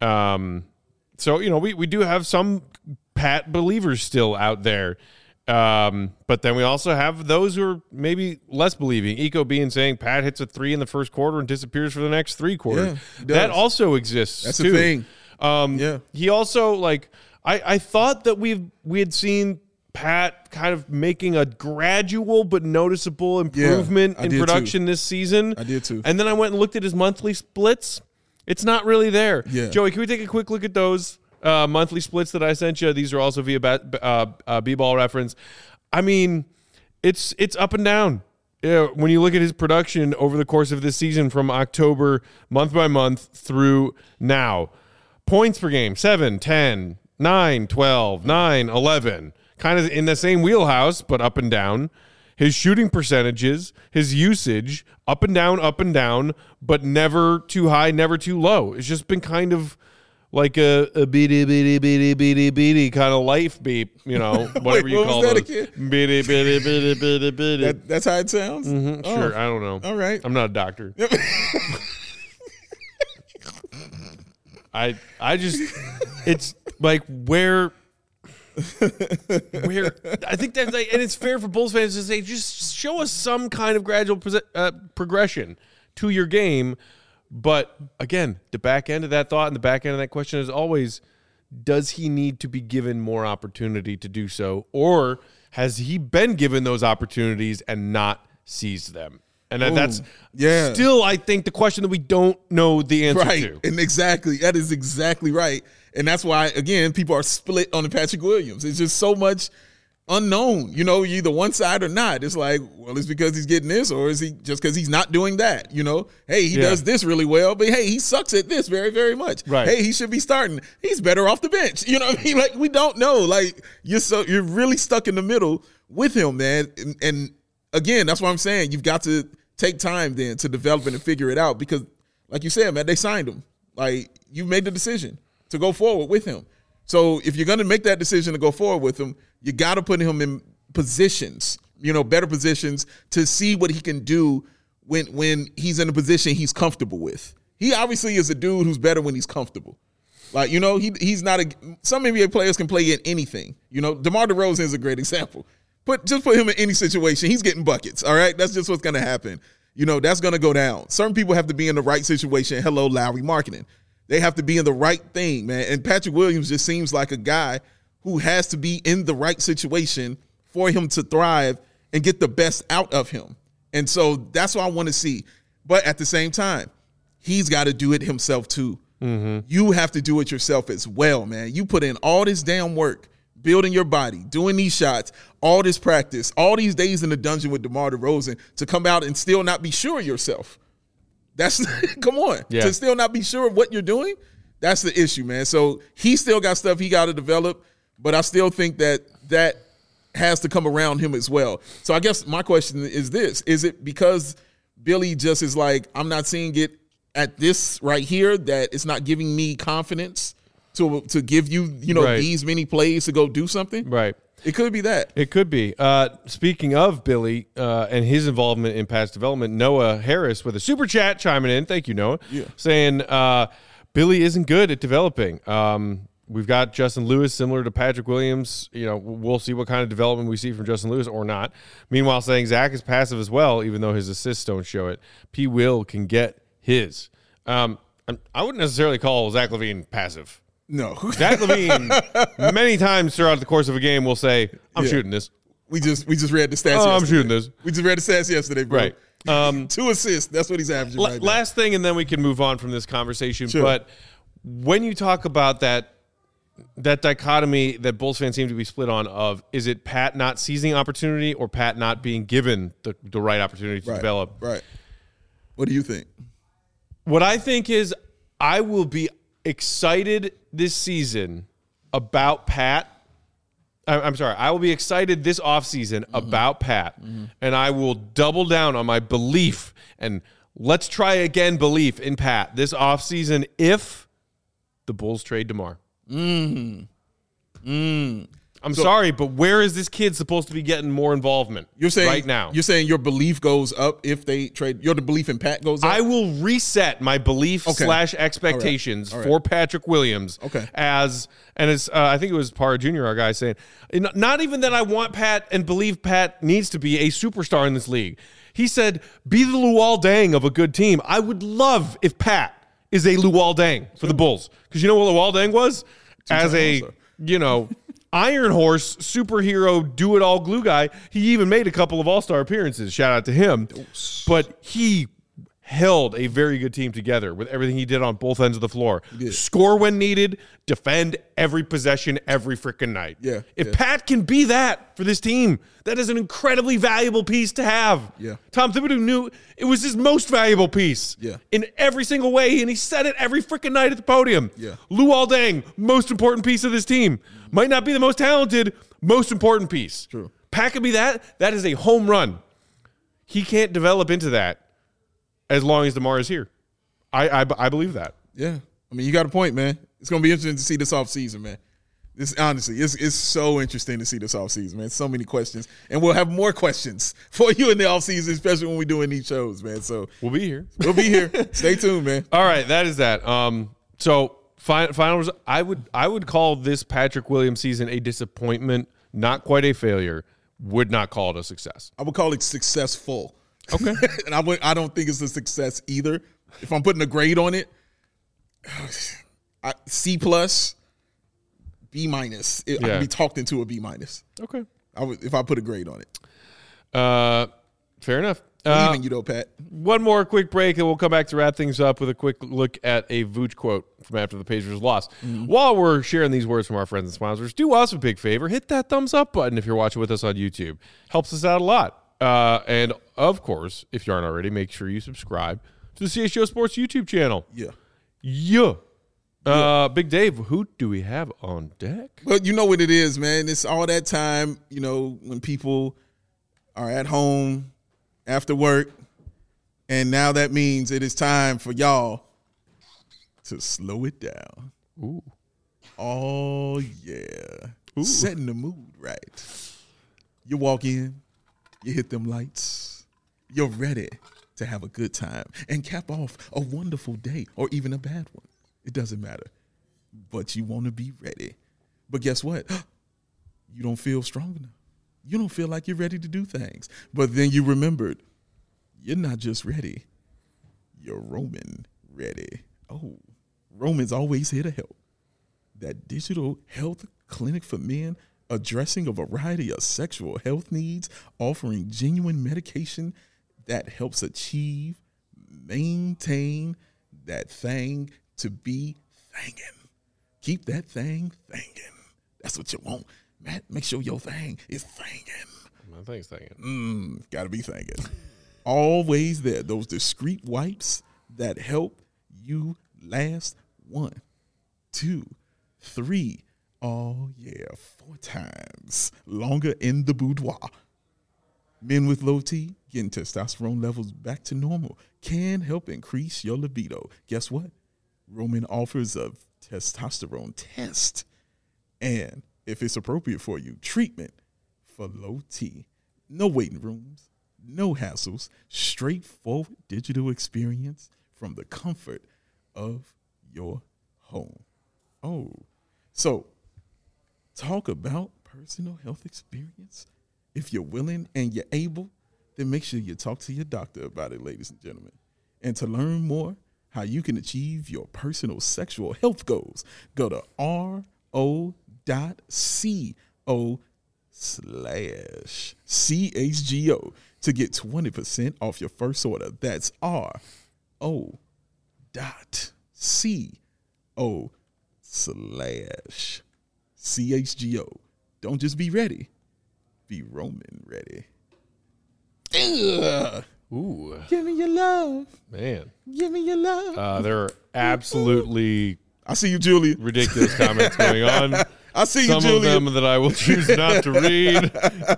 So, you know, we do have some Pat believers still out there. But then we also have those who are maybe less believing. Eco being saying Pat hits a 3 in the first quarter and disappears for the next 3 quarters. Yeah, that also exists. That's too. a thing. He also, like, I thought that we had seen Pat kind of making a gradual but noticeable improvement in production this season. I did too. And then I went and looked at his monthly splits. It's not really there. Yeah. Joey, can we take a quick look at those monthly splits that I sent you? These are also via B-Ball reference. I mean, it's up and down. When you look at his production over the course of this season from October, month by month through now. Points per game, 7, 10, 9, 12, 9, 11. Kind of in the same wheelhouse, but up and down. His shooting percentages, his usage, up and down, but never too high, never too low. It's just been kind of like a beady kind of life beep, you know, whatever you call it. Beady. That's how it sounds? Mm-hmm, sure, I don't know. All right. I'm not a doctor. I just, it's like where I think that's like, and it's fair for Bulls fans to say, just show us some kind of gradual progression to your game. But again, the back end of that thought and the back end of that question is always, does he need to be given more opportunity to do so? Or has he been given those opportunities and not seized them? And that's still, I think, the question that we don't know the answer to. And exactly. That is exactly right. And that's why, again, people are split on the Patrick Williams. It's just so much unknown. You know, you're either one side or not. It's like, well, it's because he's getting this, or is he just because he's not doing that? You know, hey, he does this really well, but hey, he sucks at this very, very much. Right. Hey, he should be starting. He's better off the bench. You know what I mean? Like, we don't know. Like, you're really stuck in the middle with him, man. And again, that's what I'm saying. You've got to take time then to develop it and figure it out because, like you said, man, they signed him. Like, you made the decision to go forward with him. So if you're going to make that decision to go forward with him, you got to put him in positions, you know, better positions to see what he can do when he's in a position he's comfortable with. He obviously is a dude who's better when he's comfortable. Like, you know, he's not some NBA players can play in anything. You know, DeMar DeRozan is a great example. Just put him in any situation. He's getting buckets, all right? That's just what's going to happen. You know, that's going to go down. Certain people have to be in the right situation. Hello, Lowry Marketing. They have to be in the right thing, man. And Patrick Williams just seems like a guy who has to be in the right situation for him to thrive and get the best out of him. And so that's what I want to see. But at the same time, he's got to do it himself too. Mm-hmm. You have to do it yourself as well, man. You put in all this damn work, building your body, doing these shots, all this practice, all these days in the dungeon with DeMar DeRozan to come out and still not be sure of yourself. That's come on. Yeah. To still not be sure of what you're doing, that's the issue, man. So he still got stuff he got to develop, but I still think that has to come around him as well. So I guess my question is this. Is it because Billy just is like, I'm not seeing it at this right here that it's not giving me confidence to give you, Right. these many plays to go do something. Right. It could be that. It could be. Speaking of Billy and his involvement in pass development, Noah Harris with a super chat chiming in. Thank you, Noah. Yeah. Saying Billy isn't good at developing. We've got Justin Lewis similar to Patrick Williams. We'll see what kind of development we see from Justin Lewis or not. Meanwhile, saying Zach is passive as well, even though his assists don't show it. P. Will can get his. I wouldn't necessarily call Zach LaVine passive. No. Zach LaVine, many times throughout the course of a game, will say, I'm shooting this. We just read the stats Oh, yesterday. I'm shooting this. We just read the stats yesterday, bro. Right. 2 assists. That's what he's averaging right now. Last thing, and then we can move on from this conversation. Sure. But when you talk about that dichotomy that Bulls fans seem to be split on of, is it Pat not seizing opportunity or Pat not being given the right opportunity to develop? Right. What do you think? What I think is I will be excited this season about Pat. I'm sorry. I will be excited this offseason about Pat, and I will double down on my belief, and let's try again belief in Pat this offseason if the Bulls trade DeMar. I'm sorry, but where is this kid supposed to be getting more involvement You're saying right now? You're saying your belief goes up if they trade. The belief in Pat goes up. I will reset my belief / expectations All right. for Patrick Williams. Okay. It's I think it was Parra Jr., our guy, saying, not even that I want Pat and believe Pat needs to be a superstar in this league. He said, be the Luol Deng of a good team. I would love if Pat is a Luol Deng for the Bulls. Because you know what Luol Deng was? As a, Iron Horse superhero do-it-all glue guy. He even made a couple of all-star appearances. Shout out to him. But he held a very good team together with everything he did on both ends of the floor. Score when needed, defend every possession every freaking night. If Pat can be that for this team, that is an incredibly valuable piece to have. Tom Thibodeau knew it was his most valuable piece in every single way, and he said it every freaking night at the podium. Luol Deng, most important piece of this team. Might not be the most talented, most important piece. True. Pat can be that. That is a home run. He can't develop into that as long as DeMar is here. I believe that. Yeah. I mean, you got a point, man. It's going to be interesting to see this offseason, man. Honestly, it's so interesting to see this offseason, man. So many questions. And we'll have more questions for you in the offseason, especially when we're doing these shows, man. So We'll be here. we'll be here. Stay tuned, man. All right, that is that. So final result, I would call this Patrick Williams season a disappointment, not quite a failure. Would not call it a success. I would call it successful. Okay. And I don't think it's a success either. If I'm putting a grade on it, C+, B-. I could be talked into a B-. Okay. If I put a grade on it. Fair enough. Even you, though, Pat. One more quick break, and we'll come back to wrap things up with a quick look at a Vooch quote from after the Pacers lost. While we're sharing these words from our friends and sponsors, do us a big favor. Hit that thumbs up button if you're watching with us on YouTube. Helps us out a lot. And, of course, if you aren't already, make sure you subscribe to the CHGO Sports YouTube channel. Big Dave, who do we have on deck? Well, you know what it is, man. It's all that time, when people are at home after work, and now that means it is time for y'all to slow it down. Ooh. Oh, yeah. Ooh. Setting the mood right. You walk in, you hit them lights, you're ready to have a good time and cap off a wonderful day or even a bad one. It doesn't matter. But you want to be ready. But guess what? You don't feel strong enough. You don't feel like you're ready to do things. But then you remembered, you're not just ready. You're Roman ready. Oh, Roman's always here to help. That digital health clinic for men addressing a variety of sexual health needs, offering genuine medication that helps maintain that thing to be thangin'. Keep that thing thangin'. That's what you want. Matt, make sure your thing is thangin'. My thing's thangin'. Gotta be thangin'. Always there. Those discreet wipes that help you last 1, 2, 3. Oh, yeah, 4 times longer in the boudoir. Men with low T getting testosterone levels back to normal can help increase your libido. Guess what? Roman offers a testosterone test. And if it's appropriate for you, treatment for low T. No waiting rooms, no hassles, straightforward digital experience from the comfort of your home. Oh, so talk about personal health experience. If you're willing and you're able, then make sure you talk to your doctor about it, ladies and gentlemen. And to learn more how you can achieve your personal sexual health goals, go to ro.co/CHGO to get 20% off your first order. That's ro.co/CHGO. Don't just be ready. Be Roman ready. Ugh. Ooh, Give me your love. man. Give me your love. There are absolutely I see you, Julia. ridiculous comments going on. I see you, Some of Julia. them that I will choose not to read.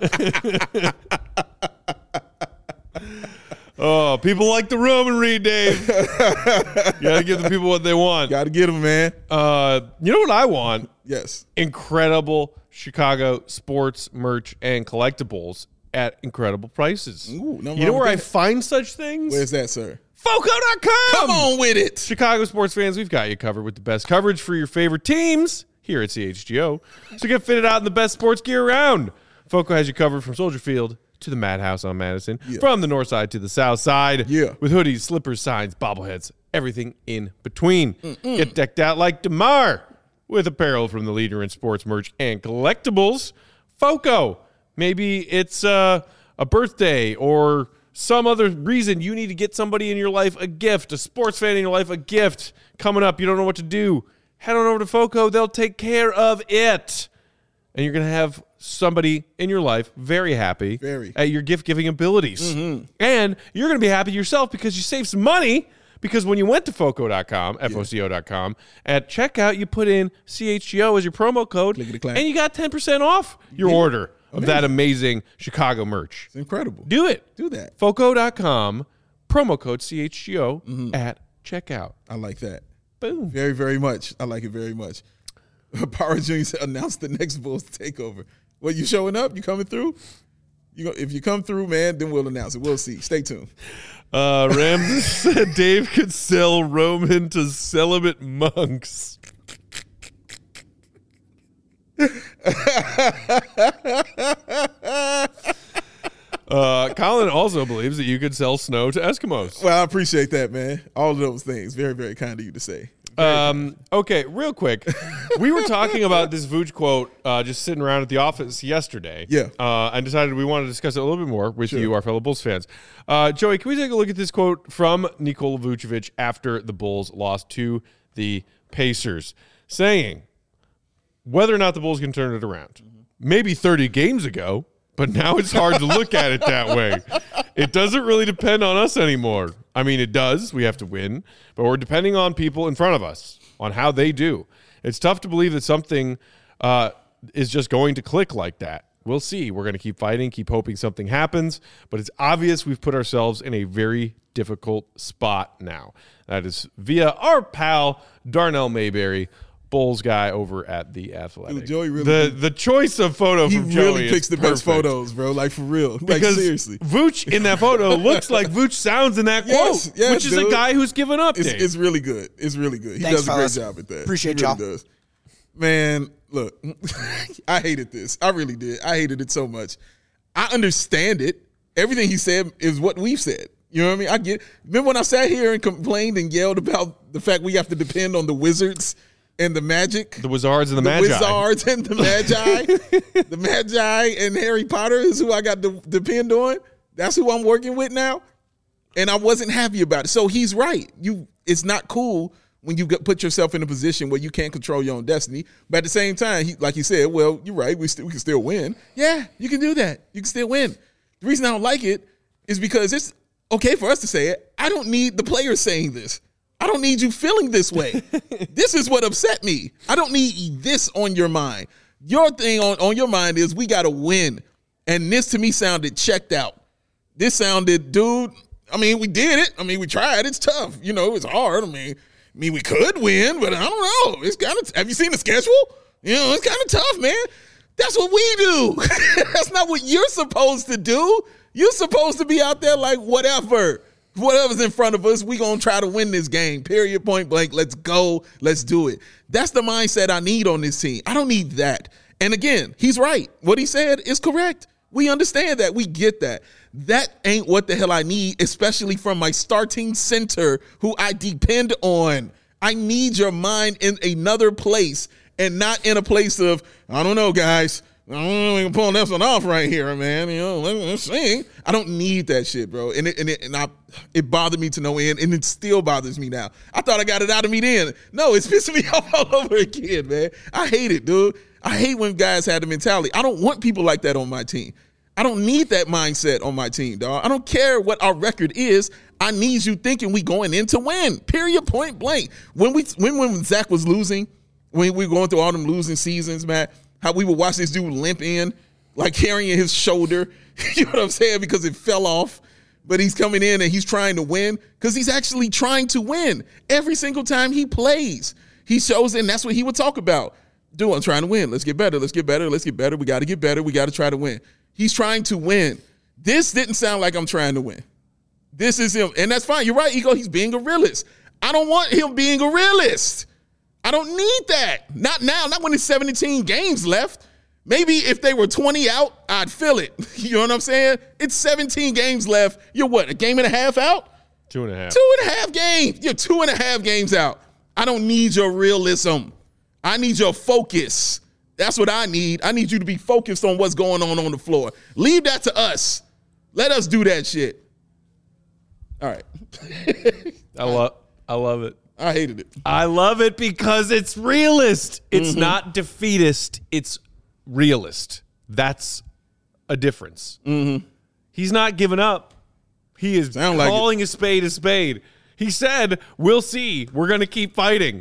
Oh, people like the Roman read, Dave. You gotta give the people what they want. Got to get them, man. You know what I want? Yes. Incredible Chicago sports merch and collectibles at incredible prices. Ooh, no you know wrong where I with that. find such things? Where's that, sir? Foco.com. Come on with it. Chicago sports fans, we've got you covered with the best coverage for your favorite teams here at CHGO. So get fitted out in the best sports gear around. Foco has you covered from Soldier Field to the Madhouse on Madison, from the north side to the south side, with hoodies, slippers, signs, bobbleheads, everything in between. Get decked out like DeMar with apparel from the leader in sports merch and collectibles, Foco. Maybe it's a birthday or some other reason you need to get somebody in your life a gift, a sports fan in your life a gift coming up. You don't know what to do. Head on over to Foco. They'll take care of it. And you're going to have somebody in your life very happy at your gift-giving abilities. And you're going to be happy yourself because you saved some money, because when you went to Foco.com, Foco.com, at checkout, you put in CHGO as your promo code, and you got 10% off your order of that amazing Chicago merch. It's incredible. Do it. Do that. Foco.com, promo code CHGO at checkout. I like that. Boom. Very, very much. I like it very much. Power Junior announced the next Bulls takeover. Well, you showing up? You coming through? If you come through, man, then we'll announce it. We'll see. Stay tuned. Ramses said Dave could sell Roman to celibate monks. Colin also believes that you could sell snow to Eskimos. Well, I appreciate that, man. All of those things. Very, very kind of you to say. Okay, real quick. We were talking about this Vooch quote just sitting around at the office yesterday. Yeah. And decided we wanted to discuss it a little bit more with you, our fellow Bulls fans. Joey, can we take a look at this quote from Nikola Vucevic after the Bulls lost to the Pacers, saying whether or not the Bulls can turn it around. Maybe 30 games ago, but now it's hard to look at it that way. It doesn't really depend on us anymore. I mean, it does. We have to win, but we're depending on people in front of us, on how they do. It's tough to believe that something is just going to click like that. We'll see. We're going to keep fighting, keep hoping something happens, but it's obvious we've put ourselves in a very difficult spot now. That is via our pal, Darnell Mayberry, Bulls guy over at The Athletic. Dude, Joey really the choice of photo from Joey really picks is the best perfect. photos, bro. Like, for real. Like, Because seriously. Vooch in that photo looks like Vooch sounds in that quote, Yes, which is a dude. guy who's given up. It's really good. It's really good. He Thanks, does a fellas. great job at that. Appreciate he really y'all. does. Man, look, I hated this. I really did. I hated it so much. I understand it. Everything he said is what we've said. You know what I mean? I get. Remember when I sat here and complained and yelled about the fact we have to depend on the Wizards and the Magic? The Wizards and the Magi. Wizards and the Magi. The Magi and Harry Potter is who I got to depend on. That's who I'm working with now. And I wasn't happy about it. So he's right. It's not cool when you put yourself in a position where you can't control your own destiny. But at the same time, like he said, well, you're right. We can still win. Yeah, you can do that. You can still win. The reason I don't like it is because it's okay for us to say it. I don't need the players saying this. I don't need you feeling this way. This is what upset me. I don't need this on your mind. Your thing on your mind is we got to win. And this to me sounded checked out. This sounded, dude. I mean, we did it. I mean, we tried. It's tough. You know, it's hard. I mean, we could win, but I don't know. It's kind of. Have you seen the schedule? You know, it's kind of tough, man. That's what we do. That's not what you're supposed to do. You're supposed to be out there like whatever's in front of us. We gonna try to win this game. Period. Point blank. Let's go. Let's do it. That's the mindset I need on this team. I don't need that. And again, he's right. What he said is correct. We understand that. We get that. That ain't what the hell I need, especially from my starting center who I depend on. I need your mind in another place and not in a place of, I don't know, guys. I don't know if we can pull this one off right here, man. You know, let's see. I don't need that shit, bro. And it bothered me to no end, and it still bothers me now. I thought I got it out of me then. No, it's pissing me off all over again, man. I hate it, dude. I hate when guys have the mentality. I don't want people like that on my team. I don't need that mindset on my team, dog. I don't care what our record is. I need you thinking we going in to win. Period. Point blank. When Zach was losing, when we were going through all them losing seasons, man, how we would watch this dude limp in, like carrying his shoulder. You know what I'm saying? Because it fell off. But he's coming in and he's trying to win because he's actually trying to win every single time he plays. He shows it, and that's what he would talk about. Dude, I'm trying to win. Let's get better. Let's get better. Let's get better. We got to get better. We got to try to win. He's trying to win. This didn't sound like I'm trying to win. This is him. And that's fine. You're right, Ego. He's being a realist. I don't want him being a realist. I don't need that. Not now. Not when there's 17 games left. Maybe if they were 20 out, I'd feel it. You know what I'm saying? It's 17 games left. You're what, a game and a half out? 2.5. 2.5 games. You're 2.5 games out. I don't need your realism. I need your focus. That's what I need. I need you to be focused on what's going on the floor. Leave that to us. Let us do that shit. All right. I love it. I hated it. I love it because it's realist. It's not defeatist. It's realist. That's a difference. He's not giving up. He is calling a spade a spade. He said, we'll see. We're going to keep fighting.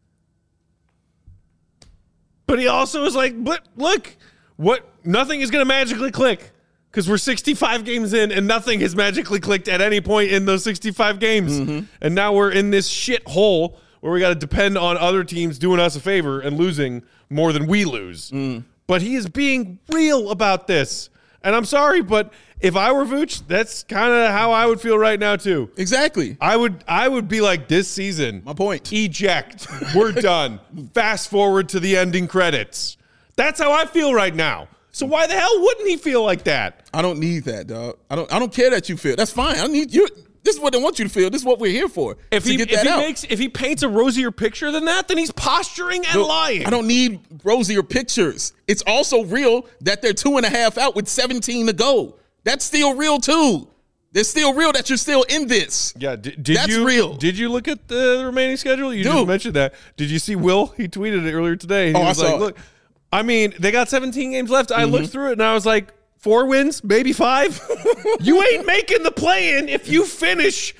But he also was like, but look, nothing is going to magically click because we're 65 games in and nothing has magically clicked at any point in those 65 games. And now we're in this shit hole where we got to depend on other teams doing us a favor and losing more than we lose. But he is being real about this. And I'm sorry, but if I were Vooch, that's kind of how I would feel right now too. Exactly. I would be like, this season. My point. Eject. We're done. Fast forward to the ending credits. That's how I feel right now. So why the hell wouldn't he feel like that? I don't need that, dog. I don't care that you feel. That's fine. I need you. This is what I want you to feel. This is what we're here for. If he paints a rosier picture than that, then he's posturing and lying. I don't need rosier pictures. It's also real that they're 2.5 out with 17 to go. That's still real too. It's still real that you're still in this. Yeah, that's real. Did you look at the remaining schedule? You just mentioned that. Did you see Will? He tweeted it earlier today. He was I saw like, look, I mean, they got 17 games left. I looked through it and I was like, 4 wins, maybe 5. You ain't making the play-in if you finish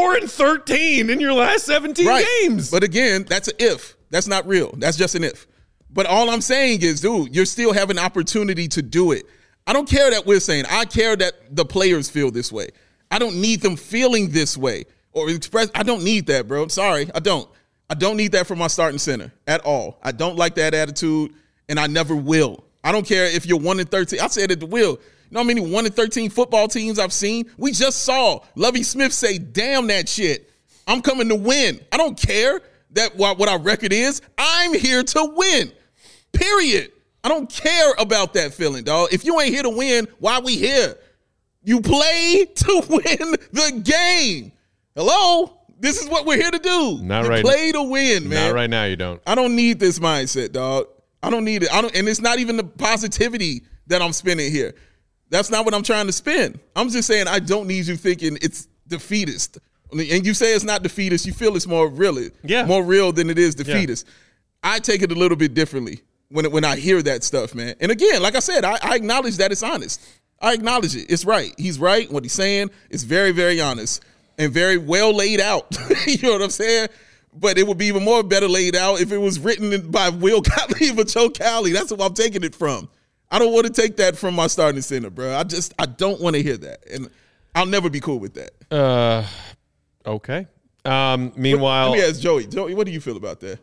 4-13 in your last 17 games. But again, that's an if. That's not real. That's just an if. But all I'm saying is, dude, you still have an opportunity to do it. I don't care that we're saying. I care that the players feel this way. I don't need them feeling this way or express. I don't need that, bro. I'm sorry. I don't need that from my starting center at all. I don't like that attitude, and I never will. I don't care if you're 1-13. I said it to Will. You know how many 1-13 football teams I've seen? We just saw Lovie Smith say, damn that shit. I'm coming to win. I don't care that what our record is. I'm here to win, period. I don't care about that feeling, dog. If you ain't here to win, why we here? You play to win the game. Hello? This is what we're here to do. Not right now. Play to win, man. Not right now, you don't. I don't need this mindset, dog. I don't need it. And it's not even the positivity that I'm spinning here. That's not what I'm trying to spin. I'm just saying I don't need you thinking it's defeatist. And you say it's not defeatist. You feel it's more real than it is defeatist. Yeah. I take it a little bit differently when I hear that stuff, man. And again, like I said, I acknowledge that it's honest. I acknowledge it. It's right. He's right. What he's saying is very, very honest and very well laid out. You know what I'm saying? But it would be even more better laid out if it was written by Will Gottlieb or Joe Cowley. That's what I'm taking it from. I don't want to take that from my starting center, bro. I don't want to hear that. And I'll never be cool with that. Okay. Meanwhile, let me ask Joey. Joey, what do you feel about that?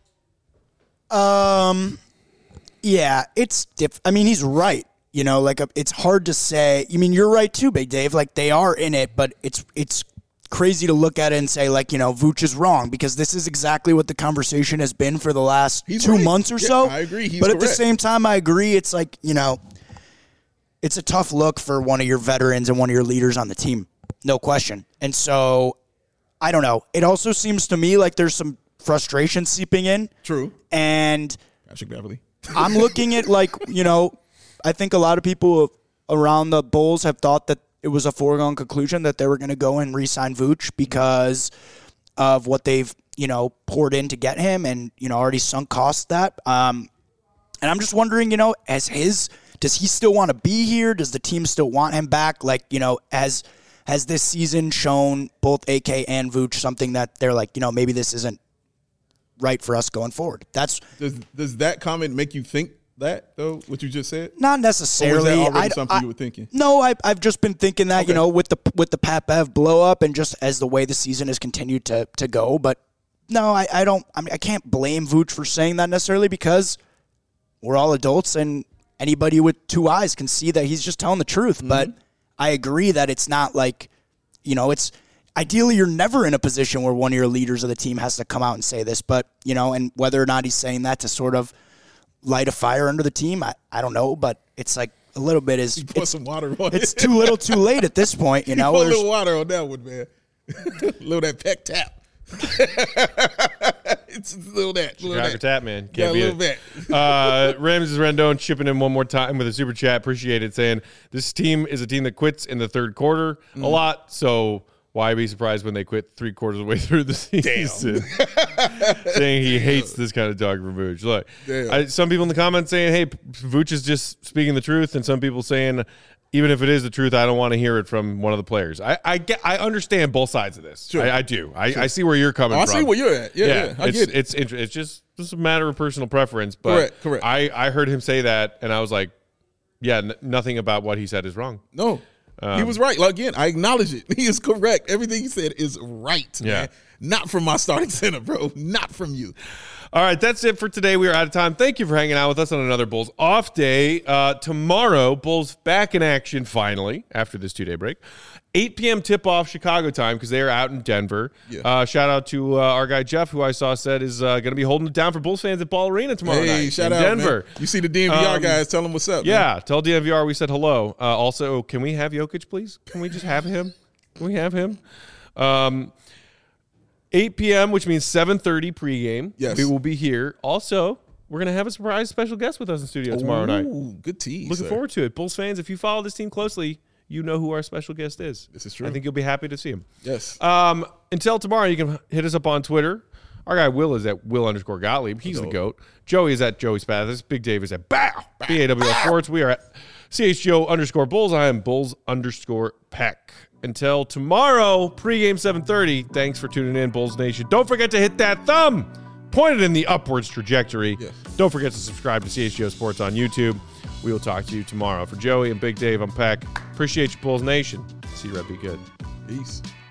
Yeah, it's I mean, he's right. You know, like it's hard to say. I mean, you're right too, Big Dave. Like they are in it, but it's crazy to look at it and say, like, you know, Vooch is wrong, because this is exactly what the conversation has been for the last 2 months or so. I agree. He's but correct. At the same time, I agree. It's like, you know, it's a tough look for one of your veterans and one of your leaders on the team, no question. And so, I don't know. It also seems to me like there's some frustration seeping in. True. And Patrick Beverley. I'm looking at, like, you know, I think a lot of people around the Bulls have thought that it was a foregone conclusion that they were going to go and re-sign Vooch because of what they've, you know, poured in to get him and, you know, already sunk costs that. And I'm just wondering, you know, does he still want to be here? Does the team still want him back? Like, you know, has this season shown both AK and Vooch something that they're like, you know, maybe this isn't right for us going forward? Does that comment make you think that, though, what you just said? Not necessarily. Or was that already something you were thinking? No, I've just been thinking that, you know, with the Pat Bev blow up and just as the way the season has continued to go. But no, I can't blame Vooch for saying that necessarily, because we're all adults and anybody with two eyes can see that he's just telling the truth. Mm-hmm. But I agree that it's not like, you know, it's ideally you're never in a position where one of your leaders of the team has to come out and say this. But, you know, and whether or not he's saying that to sort of light a fire under the team, I don't know, but it's like a little bit is put some water on it's too little too late at this point, you know. Put a little water on that one, man. Little that peck tap. It's a little that. Chicago tap, man. Yeah, a little bit. Ramses Rendon chipping in one more time with a super chat. Appreciate it, saying this team is a team that quits in the third quarter a lot, so why be surprised when they quit 3/4 of the way through the season? Saying he hates this kind of talk from Vooch. Look, some people in the comments saying, hey, Vooch is just speaking the truth, and some people saying, even if it is the truth, I don't want to hear it from one of the players. I understand both sides of this. Sure. I do. I see where you're coming from. I see where you're at. Yeah, I get it. It's just a matter of personal preference. But correct. I heard him say that, and I was like, yeah, nothing about what he said is wrong. No. He was right. Like, again, I acknowledge it. He is correct. Everything he said is right, man. Not from my starting center, bro. Not from you. All right, that's it for today. We are out of time. Thank you for hanging out with us on another Bulls off day. Tomorrow, Bulls back in action finally after this 2-day break. 8 p.m. tip-off Chicago time because they are out in Denver. Yeah. Shout out to our guy Jeff, who I saw said is going to be holding it down for Bulls fans at Ball Arena tomorrow night shout in out, Denver. Man. You see the DNVR guys, tell them what's up. Yeah, man. Tell DNVR we said hello. Also, can we have Jokic, please? Can we just have him? Can we have him? 8 p.m., which means 7:30 pregame. Yes. We will be here. Also, we're going to have a surprise special guest with us in studio tomorrow night. Good tease. Looking forward to it. Bulls fans, if you follow this team closely, you know who our special guest is. This is true. I think you'll be happy to see him. Yes. Until tomorrow, you can hit us up on Twitter. Our guy Will is at Will_Gottlieb. He's the GOAT. Joey is at Joey Spathis. Big Dave is at BAWL Sports. We are at CHGO_Bulls. I am Bulls_Peck. Until tomorrow, pregame 7:30. Thanks for tuning in, Bulls Nation. Don't forget to hit that thumb. Point it in the upwards trajectory. Yes. Don't forget to subscribe to CHGO Sports on YouTube. We will talk to you tomorrow. For Joey and Big Dave, I'm Peck. Appreciate you, Bulls Nation. See you, Red. Be good. Peace.